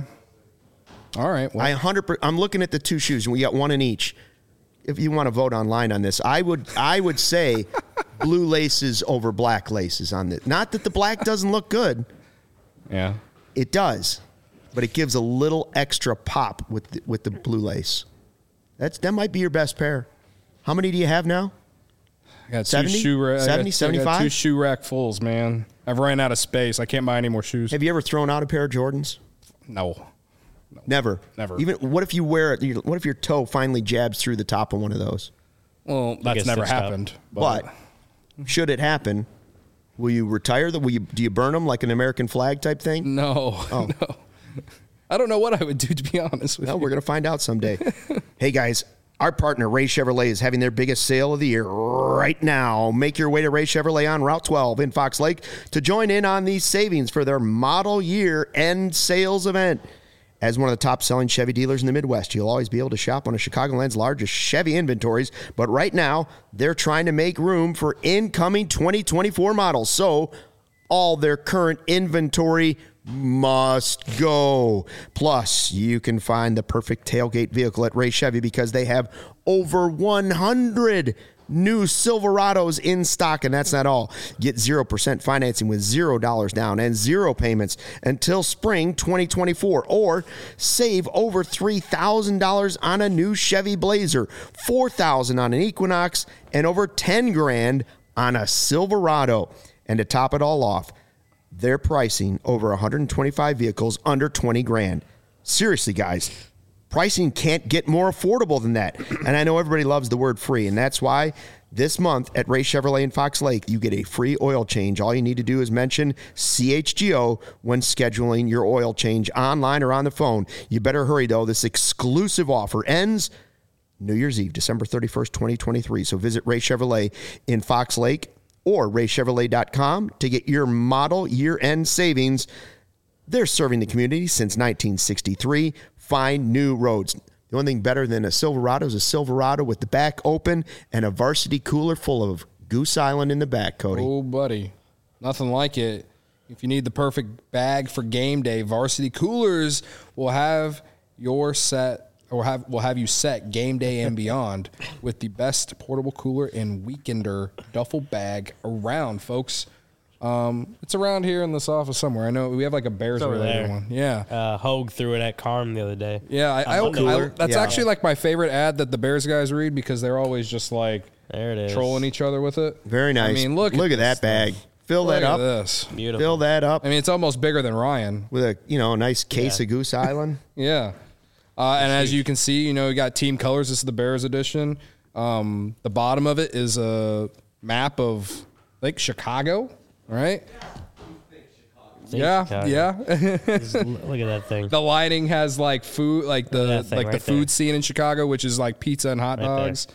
All right. Well, I'm looking at the two shoes, and we got one in each. If you want to vote online on this, I would say blue laces over black laces on this. Not that the black doesn't look good. yeah. It does, but it gives a little extra pop with the blue lace. That might be your best pair. How many do you have now? I got 70? two shoe rack. 70, I got 75? two shoe rack fulls, man. I've ran out of space. I can't buy any more shoes. Have you ever thrown out a pair of Jordans? No. Never. Never. Even what if you wear it? What if your toe finally jabs through the top of one of those? Well, that's gets never stitched up. happened. But should it happen, will you retire them? Do you burn them like an American flag type thing? no. Oh. No. I don't know what I would do, to be honest with No, you. we're going to find out someday. Hey, guys, our partner, Ray Chevrolet, is having their biggest sale of the year right now. Make your way to Ray Chevrolet on Route 12 in Fox Lake to join in on these savings for their model year end sales event. As one of the top-selling Chevy dealers in the Midwest, you'll always be able to shop one of Chicagoland's largest Chevy inventories. But right now, they're trying to make room for incoming 2024 models. So all their current inventory must go. Plus, you can find the perfect tailgate vehicle at Ray Chevy because they have over 100 new Silverados in stock, and that's not all. Get 0% financing with $0 down and 0 payments until spring 2024, or save over $3,000 on a new Chevy Blazer, $4,000 on an Equinox, and over $10,000 on a Silverado. And to top it all off, they're pricing over 125 vehicles under $20,000. Seriously, guys. Pricing can't get more affordable than that. And I know everybody loves the word free, and that's why this month at Ray Chevrolet in Fox Lake, you get a free oil change. All you need to do is mention CHGO when scheduling your oil change online or on the phone. You better hurry, though. This exclusive offer ends New Year's Eve, December 31st, 2023. So visit Ray Chevrolet in Fox Lake or raychevrolet.com to get your model year-end savings. They're serving the community since 1963. Find new roads. The only thing better than a Silverado is a Silverado with the back open and a varsity cooler full of Goose Island in the back, Cody. Oh, buddy. Nothing like it. If you need the perfect bag for game day, Varsity Coolers will have your set, or will have you set game day and beyond with the best portable cooler and weekender duffel bag around, folks. It's around here in this office somewhere. I know we have like a Bears over related there. one. Yeah. Hogue threw it at Carm the other day. Yeah, that's Yeah. actually like my favorite ad that the Bears guys read because they're always just like There it is. trolling each other with it. Very nice. I mean, look at this that bag. Fill Look that at up. this. Beautiful. Fill that up I mean, it's almost bigger than Ryan. with a nice case Yeah. of Goose Island. Yeah. And as you can see, you got team colors. This is the Bears edition. The bottom of it is a map of Lake Chicago, right? Yeah, Chicago. yeah. Just look at that thing. The lighting has like food, like Look at the that thing like the right food there. scene in Chicago, which is like pizza and hot Right there. dogs.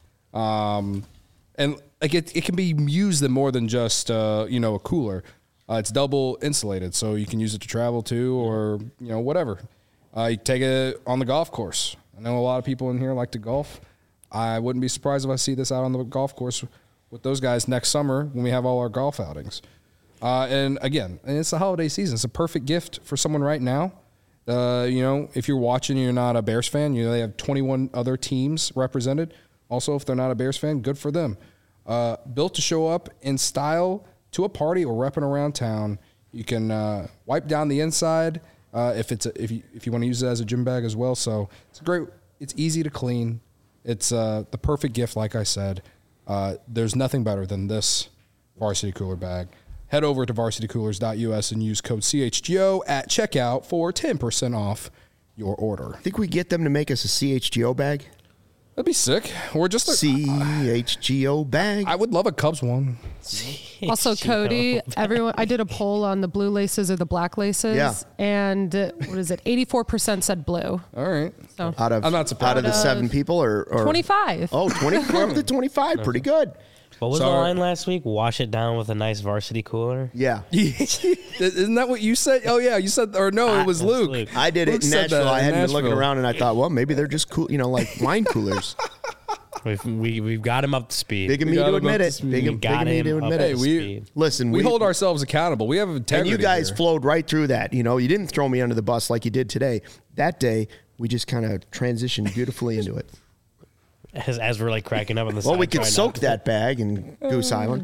And like it can be used in more than just a cooler. It's double insulated, so you can use it to travel to or whatever. You take it on the golf course. I know a lot of people in here like to golf. I wouldn't be surprised if I see this out on the golf course with those guys next summer when we have all our golf outings. And again, it's the holiday season. It's a perfect gift for someone right now. If you're watching and you're not a Bears fan, they have 21 other teams represented. Also, if they're not a Bears fan, good for them. Built to show up in style to a party or repping around town. You can wipe down the inside if you want to use it as a gym bag as well. So it's easy to clean. It's the perfect gift, like I said. There's nothing better than this Varsity Cooler bag. Head over to varsitycoolers.us and use code CHGO at checkout for 10% off your order. Think we get them to make us a CHGO bag? That'd be sick. Or just CHGO bag. I would love a Cubs one. Also, Cody, everyone, I did a poll on the blue laces or the black laces. Yeah. And what is it? 84% said blue. All right. So out of I'm not surprised. out of the Out of 7 people or 25. Oh, 20 we're up to 25. Pretty good. What was Sorry. the line last week? Wash it down with a nice varsity cooler. Yeah. Isn't that what you said? Oh, yeah. You said, or no, it was Luke. Luke. I did Luke it in said Nashville. that I in hadn't been looking Nashville. around and I thought, well, maybe they're just cool, like wine coolers. We've got him up to speed. Big of me got to him admit up to it. speed. Big We of got me to him up admit to it. speed. Listen, We hold ourselves accountable. We have integrity. and you guys here. flowed right through that. You didn't throw me under the bus like you did today. That day, we just kind of transitioned beautifully into it. As we're like cracking up on the Well, side. we could trying soak not to- that bag in Goose Island.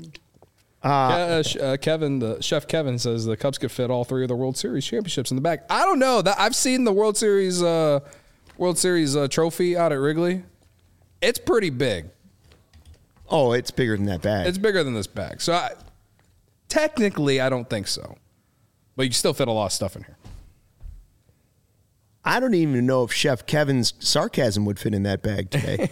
Kevin, the chef Kevin says the Cubs could fit all 3 of the World Series championships in the bag. I don't know that I've seen the World Series trophy out at Wrigley. It's pretty big. Oh, it's bigger than that bag. It's bigger than this bag. So technically, I don't think so. But you can still fit a lot of stuff in here. I don't even know if Chef Kevin's sarcasm would fit in that bag today.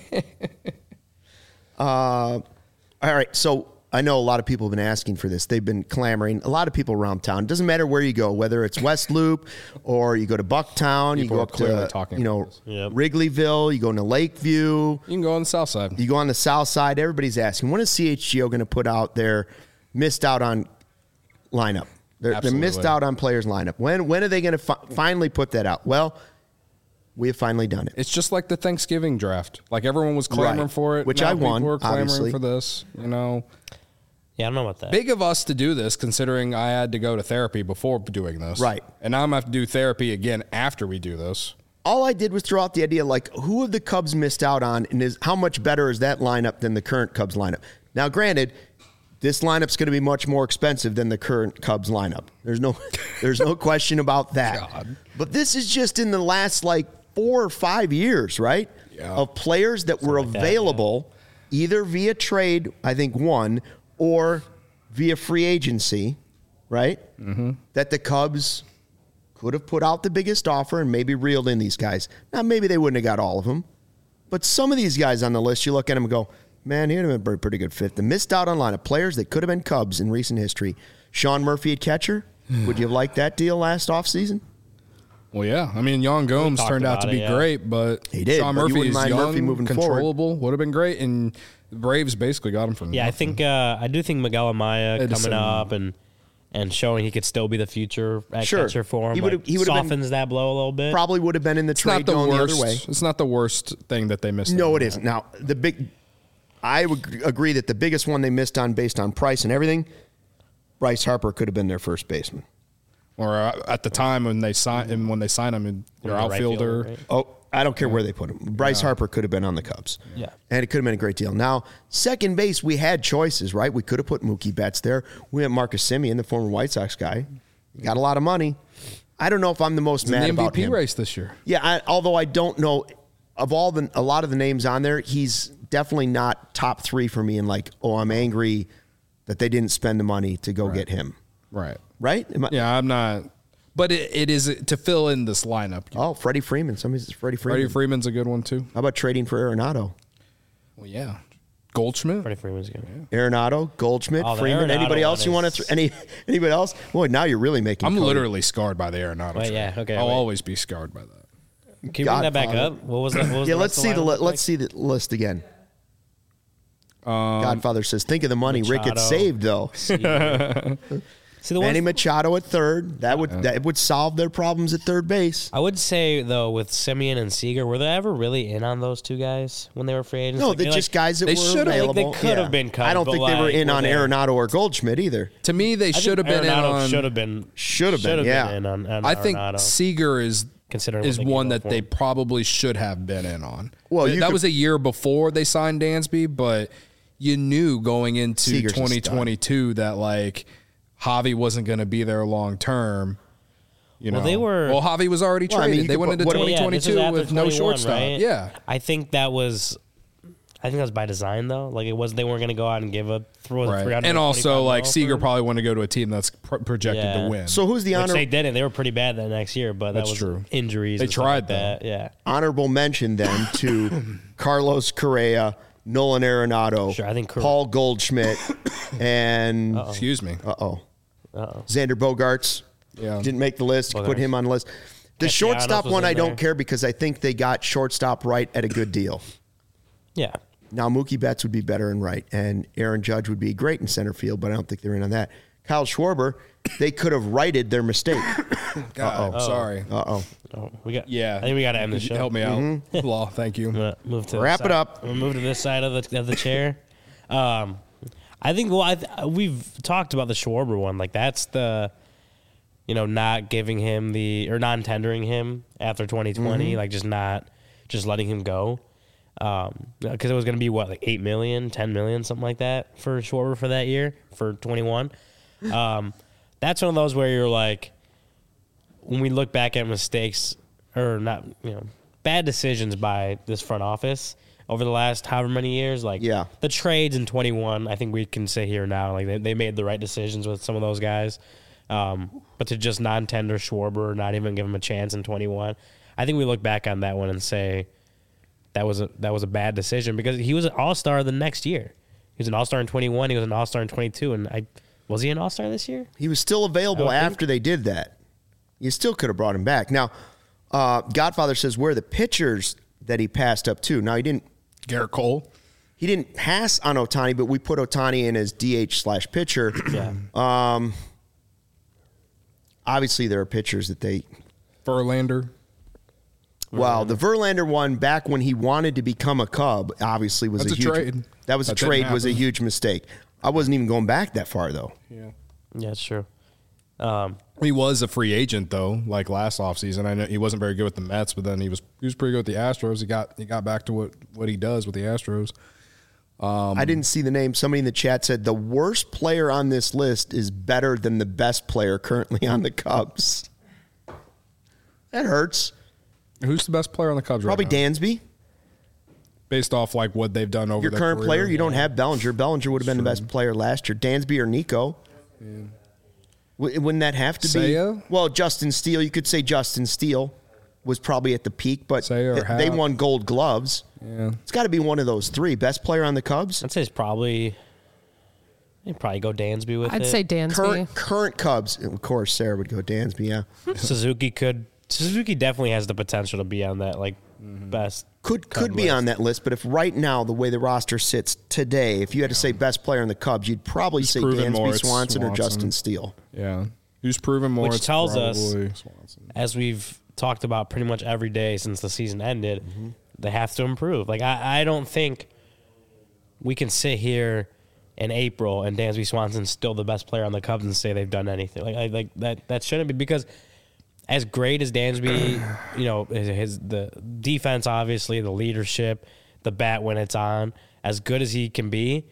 All right, so I know a lot of people have been asking for this. They've been clamoring. A lot of people around town. It doesn't matter where you go, whether it's West Loop or you go to Bucktown, People you go are up clearly to talking about this. Yep. Wrigleyville, you go into Lakeview, You can go on the south side. you go on the south side. Everybody's asking, when is CHGO going to put out their missed out on lineup? They're missed Absolutely. out on players lineup. When are they going to finally put that out? Well, we have finally done it. It's just like the Thanksgiving draft. Like everyone was clamoring Right. for it. Which Now I won, People were clamoring obviously. for this. Yeah, I don't know about that. Big of us to do this, considering I had to go to therapy before doing this. Right. And now I'm going to have to do therapy again after we do this. All I did was throw out the idea, like, who have the Cubs missed out on, and how much better is that lineup than the current Cubs lineup? Now, granted, this lineup's going to be much more expensive than the current Cubs lineup. There's no question about that. God. But this is just in the last 4 or 5 years, right? Yeah. Of players that were like that, available either via trade, I think one, or via free agency, right? Mm-hmm. That the Cubs could have put out the biggest offer and maybe reeled in these guys. Now, maybe they wouldn't have got all of them, but some of these guys on the list, you look at them and go, man, he'd have been a pretty good fit. The missed out on line of players that could have been Cubs in recent history. Sean Murphy at catcher. Would you have liked that deal last offseason? Well, yeah. I mean, Young Gomes talked turned out to about be it, yeah. great, but He did, Sean but you Murphy wouldn't is mind young, Murphy moving forward. controllable, would have been great, and the Braves basically got him from Yeah, I do think Miguel Amaya Edison. coming up and showing he could still be the future at Sure. catcher for him. He would've been- softens that blow a little bit. Probably would have been in the It's trade not the going worst. the other way. It's not the worst thing that they missed. No, on it that. isn't. Now, I would agree that the biggest one they missed on based on price and everything, Bryce Harper could have been their first baseman. Or at the time when they sign him, their The right outfielder. fielder, right? Oh, I don't care where they put him. Bryce Harper could have been on the Cubs. Yeah. And it could have been a great deal. Now, second base, we had choices, right? We could have put Mookie Betts there. We had Marcus Semien, the former White Sox guy. Got a lot of money. I don't know if I'm the most He's mad in the about MVP him. race this year. Yeah, although I don't know of a lot of the names on there, he's definitely not top 3 for me. And I'm angry that they didn't spend the money to go get him. Right. Right? Yeah, I'm not. But it is to fill in this lineup. Oh, Freddie Freeman. Somebody says Freddie Freeman. Freddie Freeman's a good one, too. How about trading for Arenado? Well, yeah. Goldschmidt. Freddie Freeman's good. Arenado, Goldschmidt, Oh, the Freeman. Arenado Anybody else one you want is- to? Anybody else? Boy, now you're really making. I'm Cody. literally scarred by the Arenado Wait, trade. yeah, okay, I'll wait. always be scarred by that. Can you bring that back Godfather. up? What was that? What was Yeah, the let's rest see of the lineup look let's like? see the list again. Godfather says, "Think of the money Rick had Machado. saved, though." See the Manny ones, Machado at third. That would solve their problems at third base. I would say though, with Simeon and Seager, were they ever really in on those two guys when they were free agents? No, Like, they're like, just guys that they were should've- like, available. they could have been cut, I don't but, think they were like, in were on they- Arenado or Goldschmidt either. To me, they I think should have been in Arenado on. Should have been. Should have been, yeah. in on I think Arenado, Seager is considering is what they one gave up that for they him. probably should have been in on. Well, you that could- was a year before they signed Dansby, but you knew going into Seager's a stud. 2022 that like Javi wasn't going to be there long term. You know, Well, they were- Well, Javi was already Well, I mean, traded. you They could went put- into what- Yeah, this 2022 was after with no 21, shortstop. right? Yeah, I think that was by design though. Like it was, they weren't going to go out and give up right. 300. And also, like Seager probably wanted to go to a team that's projected Yeah. to win. So who's the Which honor? they didn't. They were pretty bad that next year, but That's that was true. injuries. They and stuff tried, like that. Yeah. honorable mention then to Carlos Correa, Nolan Arenado, Sure, I think Correa- Paul Goldschmidt, and Excuse me. Xander Bogaerts. Yeah. Didn't make the list. Put Bogaerts. him on the list. The Castellanos shortstop was one in I don't there. care because I think they got shortstop right at a good deal. Yeah. Now Mookie Betts would be better in right, and Aaron Judge would be great in center field, but I don't think they're in on that. Kyle Schwarber, they could have righted their mistake. God, sorry. Oh, we got. Yeah, I think we got to end the Could you show. Help me out, Law. Thank you. I'm gonna move to Wrap this it side. up. We'll move to this side of the chair. I think. Well, we've talked about the Schwarber one. Like that's the, not giving him or non-tendering him after 2020. Like just letting him go. Because it was going to be what, like 8 million, 10 million, something like that for Schwarber for that year for 21. That's one of those where you're like, when we look back at mistakes or not, bad decisions by this front office over the last however many years, like Yeah. the trades in 21, I think we can say here now, like they made the right decisions with some of those guys. But to just non-tender Schwarber, not even give him a chance in 21, I think we look back on that one and say that was a bad decision because he was an all-star the next year. He was an all-star in 21. He was an all-star in 22. And was he an all-star this year? He was still available I would think. after they did that. You still could have brought him back. Now, Godfather says where are the pitchers that he passed up to. Now, he Garrett Cole. didn't pass on Ohtani, but we put Ohtani in as DH/pitcher. Yeah. Obviously, there are pitchers that they. Verlander. Well, the Verlander one back when he wanted to become a Cub, obviously was That's a a huge trade. That was a That didn't trade. Was a happen. huge mistake. I wasn't even going back that far though. Yeah. Yeah, it's true. He was a free agent though, like last offseason. I know he wasn't very good with the Mets, but then he was pretty good with the Astros. He got back to what he does with the Astros. I didn't see the name. Somebody in the chat said the worst player on this list is better than the best player currently on the Cubs. That hurts. Who's the best player on the Cubs Probably right now? Dansby. Based off like what they've done over Your their current career. player. You don't have Bellinger. Bellinger would have been the best player last year. Dansby or Nico. Wouldn't that have to Seiya? be? Well, Justin Steele. You could say Justin Steele was probably at the peak, but Seiya or they Happ. won Gold Gloves. Yeah. It's got to be one of those three. Best player on the Cubs. I'd say it's probably. You'd probably go Dansby with I'd it. say Dansby. Current Cubs. Of course, Sarah would go Dansby. Yeah, Suzuki definitely has the potential to be on that best. could Cub be list. on that list. But if right now the way the roster sits today, if you had to say best player on the Cubs, you'd probably say proven more, Dansby, it's Swanson, or Swanson. Justin Steele. Yeah. Who's proven more? Which it's tells us- probably Swanson. As we've talked about pretty much every day since the season ended, they have to improve. Like I don't think we can sit here in April and Dansby Swanson's still the best player on the Cubs and say they've done anything. Like that shouldn't be, because as great as Dansby, the defense, obviously, the leadership, the bat when it's on, as good as he can be,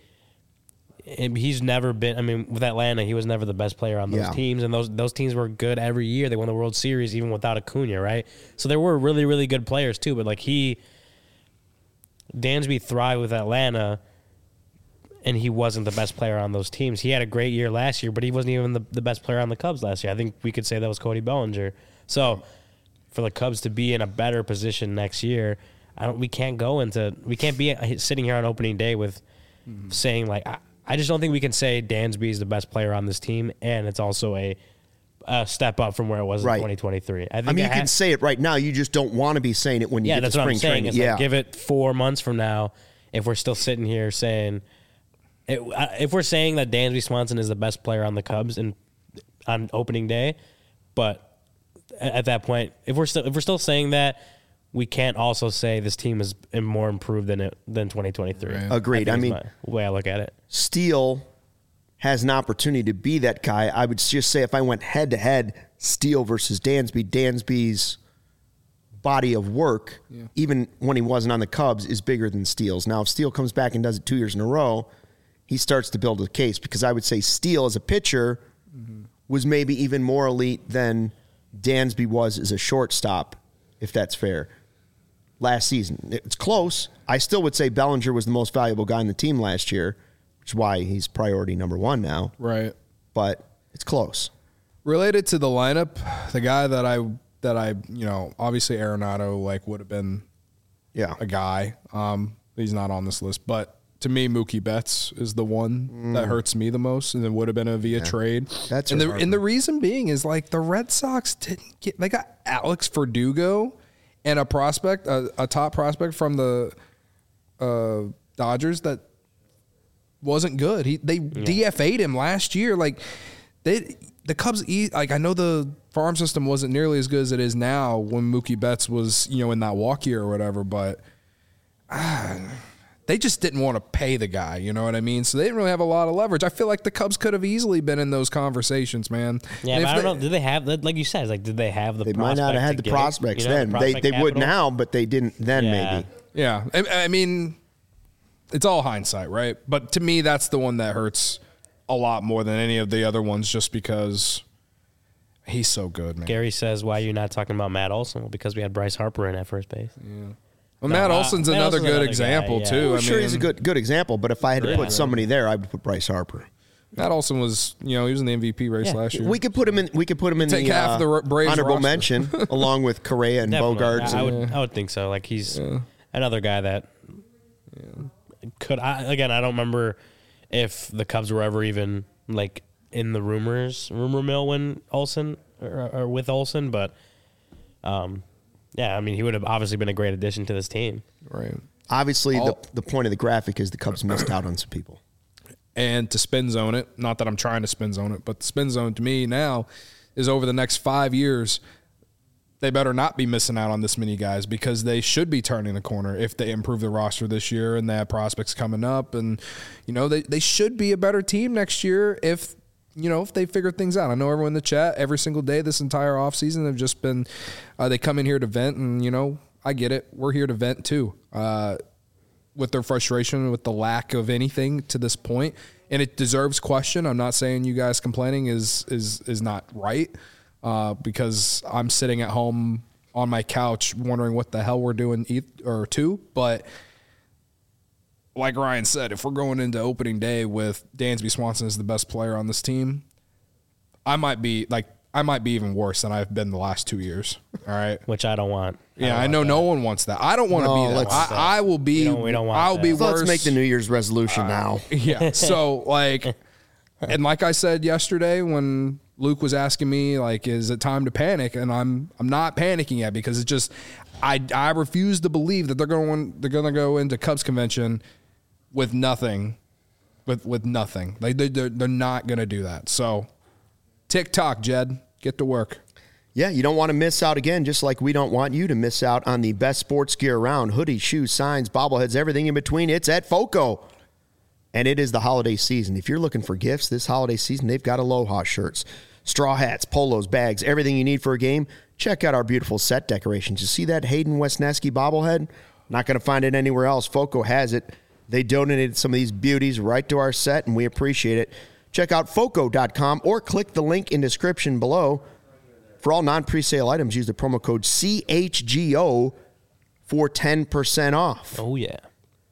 he's never been. I mean, with Atlanta, he was never the best player on those Yeah. teams, and those teams were good every year. They won the World Series even without Acuna, right? So there were really, really good players too. But Dansby thrived with Atlanta and he wasn't the best player on those teams. He had a great year last year, but he wasn't even the best player on the Cubs last year. I think we could say that was Cody Bellinger. So for the Cubs to be in a better position next year, we can't be sitting here on opening day with saying like, I just don't think we can say Dansby is the best player on this team, and it's also a step up from where it was in 2023. I think you can say it right now. You just don't want to be saying it when you get to spring training. It's like, give it 4 months from now. If we're still sitting here saying, if we're saying that Dansby Swanson is the best player on the Cubs on opening day, but at that point, if we're still saying that, we can't also say this team is more improved than 2023. Right. Agreed. I mean, the way I look at it, Steele has an opportunity to be that guy. I would just say if I went head to head, Steele versus Dansby's body of work, even when he wasn't on the Cubs, is bigger than Steele's. Now, if Steele comes back and does it 2 years in a row, he starts to build a case, because I would say Steele as a pitcher was maybe even more elite than Dansby was as a shortstop, if that's fair. Last season, it's close. I still would say Bellinger was the most valuable guy on the team last year, which is why he's priority number one now. Right. But it's close. Related to the lineup, the guy that I obviously Arenado would have been a guy. He's not on this list, but to me, Mookie Betts is the one that hurts me the most, and it would have been via trade. That's and the reason being is the Red Sox they got Alex Verdugo and a prospect, a top prospect from the Dodgers that wasn't good. They DFA'd him last year. The Cubs, I know the farm system wasn't nearly as good as it is now when Mookie Betts was, in that walk year or whatever, but they just didn't want to pay the guy, you know what I mean? So they didn't really have a lot of leverage. I feel like the Cubs could have easily been in those conversations, man. Yeah, but I don't know. Did they have, like you said, did they have the They prospect might not have had the prospects then. They would now, but they didn't then maybe. Yeah. I mean, it's all hindsight, right? But to me, that's the one that hurts a lot more than any of the other ones, just because he's so good, man. Gary says, why are you not talking about Matt Olson? Well, because we had Bryce Harper in at first base. Yeah. Well, Matt Olson's another good example, too. I'm sure he's a good example, but if I had to put somebody there, I would put Bryce Harper. Matt Olson was, he was in the MVP race last year. We could put him in. We could put him in Take the half of the Braves honorable roster. mention, along with Correa and Bogarts. I would think so. He's another guy that could. I don't remember if the Cubs were ever even in the rumor mill when Olson or with Olson, but he would have obviously been a great addition to this team. Right. Obviously, the point of the graphic is the Cubs missed out on some people. And to spin zone it, not that I'm trying to spin zone it, but the spin zone to me now is over the next 5 years, they better not be missing out on this many guys, because they should be turning the corner if they improve the roster this year and they have prospects coming up. And, they should be a better team next year if they figure things out. I know everyone in the chat every single day this entire offseason have just been they come in here to vent, and, I get it. We're here to vent too. With their frustration with the lack of anything to this point, and it deserves question. I'm not saying you guys complaining is not right, because I'm sitting at home on my couch wondering what the hell we're doing but like Ryan said, if we're going into opening day with Dansby Swanson as the best player on this team, I might be even worse than I've been the last 2 years. All right. Which I don't want. I know no one wants that. I don't want to be that. I will be. We don't want I'll that. be worse. Let's make the New Year's resolution now. Yeah. So and like I said yesterday when Luke was asking me, is it time to panic? And I'm not panicking yet, because it's just I refuse to believe that they're going to go into Cubs convention with nothing, with nothing. They're not going to do that. So TikTok, Jed, get to work. Yeah, you don't want to miss out again, just like we don't want you to miss out on the best sports gear around. Hoodies, shoes, signs, bobbleheads, everything in between. It's at FOCO. And it is the holiday season. If you're looking for gifts this holiday season, they've got Aloha shirts, straw hats, polos, bags, everything you need for a game. Check out our beautiful set decorations. You see that Hayden Wesneski bobblehead? Not going to find it anywhere else. FOCO has it. They donated some of these beauties right to our set, and we appreciate it. Check out FOCO.com or click the link in description below. For all non-presale items, use the promo code CHGO for 10% off. Oh, yeah.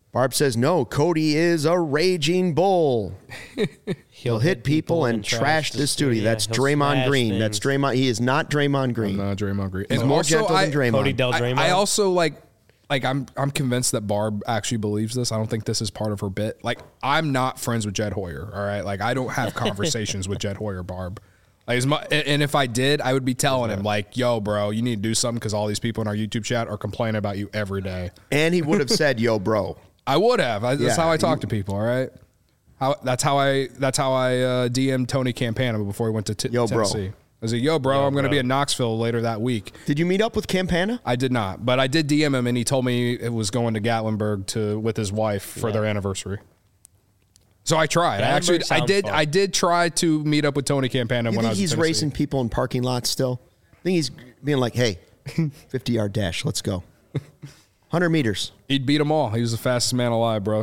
Barb says, no, Cody is a raging bull. He'll hit people and trash the studio. That's He'll Draymond smash Green. things. That's Draymond. He is not Draymond Green. I'm not Draymond Green. He's And more also, gentle than Draymond. Cody Del Draymond. I also like I'm convinced that Barb actually believes this. I don't think this is part of her bit. Like, I'm not friends with Jed Hoyer. All right, like I don't have conversations with Jed Hoyer, Barb. Like, and if I did, I would be telling him like, "Yo, bro, you need to do something because all these people in our YouTube chat are complaining about you every day." And he would have said, yo, bro. I would have. That's Yeah, how I talk to people. All right. That's how I DM'd Tony Campana before he went to Yo, bro. Tennessee. I was like, yo, bro, I'm going to be in Knoxville later that week. Did you meet up with Campana? I did not, but I did DM him, and he told me it was going to Gatlinburg with his wife for their anniversary. So I tried. I did try to meet up with Tony Campana You when I think was he's in Tennessee. racing people in parking lots still? I think he's being like, hey, 50-yard dash, let's go. 100 meters. He'd beat them all. He was the fastest man alive, bro.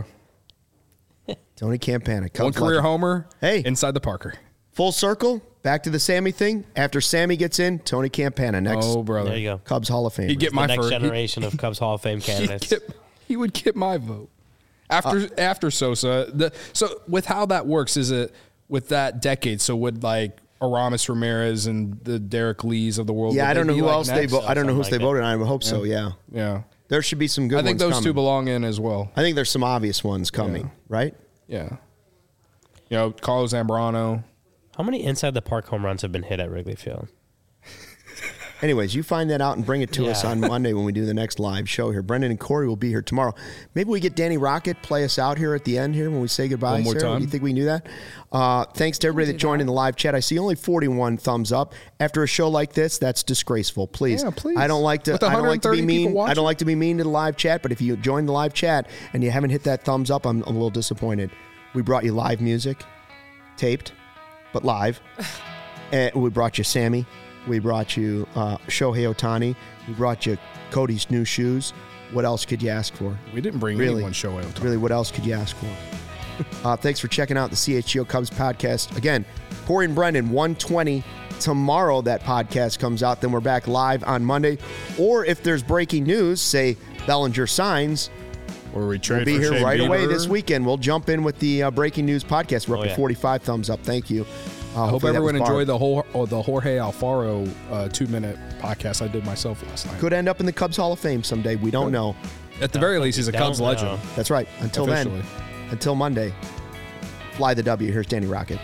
Tony Campana. One career homer. Hey. Inside the Parker. Full circle. Back to the Sammy thing. After Sammy gets in, Tony Campana next. Oh, brother. There you go. Cubs Hall of Fame. He'd get The my next first. generation of Cubs Hall of Fame candidates. He would get my vote after Sosa. So with how that works, is it with that decade? So would like Aramis Ramirez and the Derek Lees of the world? Yeah, would I don't they know be who like else they next? vote. I don't know who Something they like voted on. I hope so. Yeah, Yeah, there should be some good I ones think those two coming. belong in as well. I think there's some obvious ones coming, right? Yeah, you know, Carlos Zambrano. How many inside the park home runs have been hit at Wrigley Field? Anyways, you find that out and bring it to us Yeah. on Monday when we do the next live show here. Brendan and Corey will be here tomorrow. Maybe we get Danny Rocket play us out here at the end here when we say goodbye. One more Sarah. time. Do you think we can do that? Thanks to everybody that joined in the live chat. I see only 41 thumbs up. After a show like this, that's disgraceful. Please. Yeah, please. I don't like to With I don't like to be 130 mean. people watching. I don't like to be mean to the live chat, but if you join the live chat and you haven't hit that thumbs up, I'm a little disappointed. We brought you live music, taped, but live. And we brought you Sammy. We brought you Shohei Ohtani. We brought you Cody's new shoes. What else could you ask for? We didn't bring Really? anyone show out. Really, what else could you ask for? Thanks for checking out the CHGO Cubs podcast. Again, Corey and Brendan, 1:20 tomorrow that podcast comes out. Then we're back live on Monday. Or if there's breaking news, say Bellinger signs, Or we trade we'll be for here Shane right away Bieber. this weekend. We'll jump in with the breaking news podcast. We're up Oh, to yeah. 45 thumbs up. Thank you. I hope Hopefully that everyone was Barb. enjoyed the Jorge Alfaro 2-minute podcast I did myself last night. Could end up in the Cubs Hall of Fame someday. We don't know. At the very least, he's a Don't Cubs know. legend. That's right. Until then, Officially. until Monday, fly the W. Here's Danny Rocket.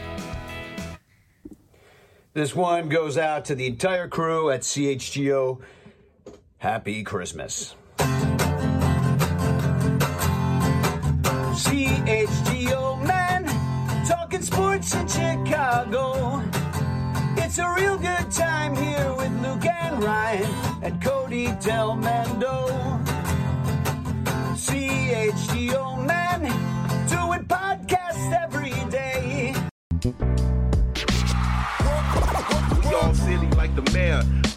This one goes out to the entire crew at CHGO. Happy Christmas. CHGO, man, talking sports in Chicago. It's a real good time here with Luke and Ryan and Cody Del Mando. CHGO, man, doing podcasts every day. We all silly like the mayor.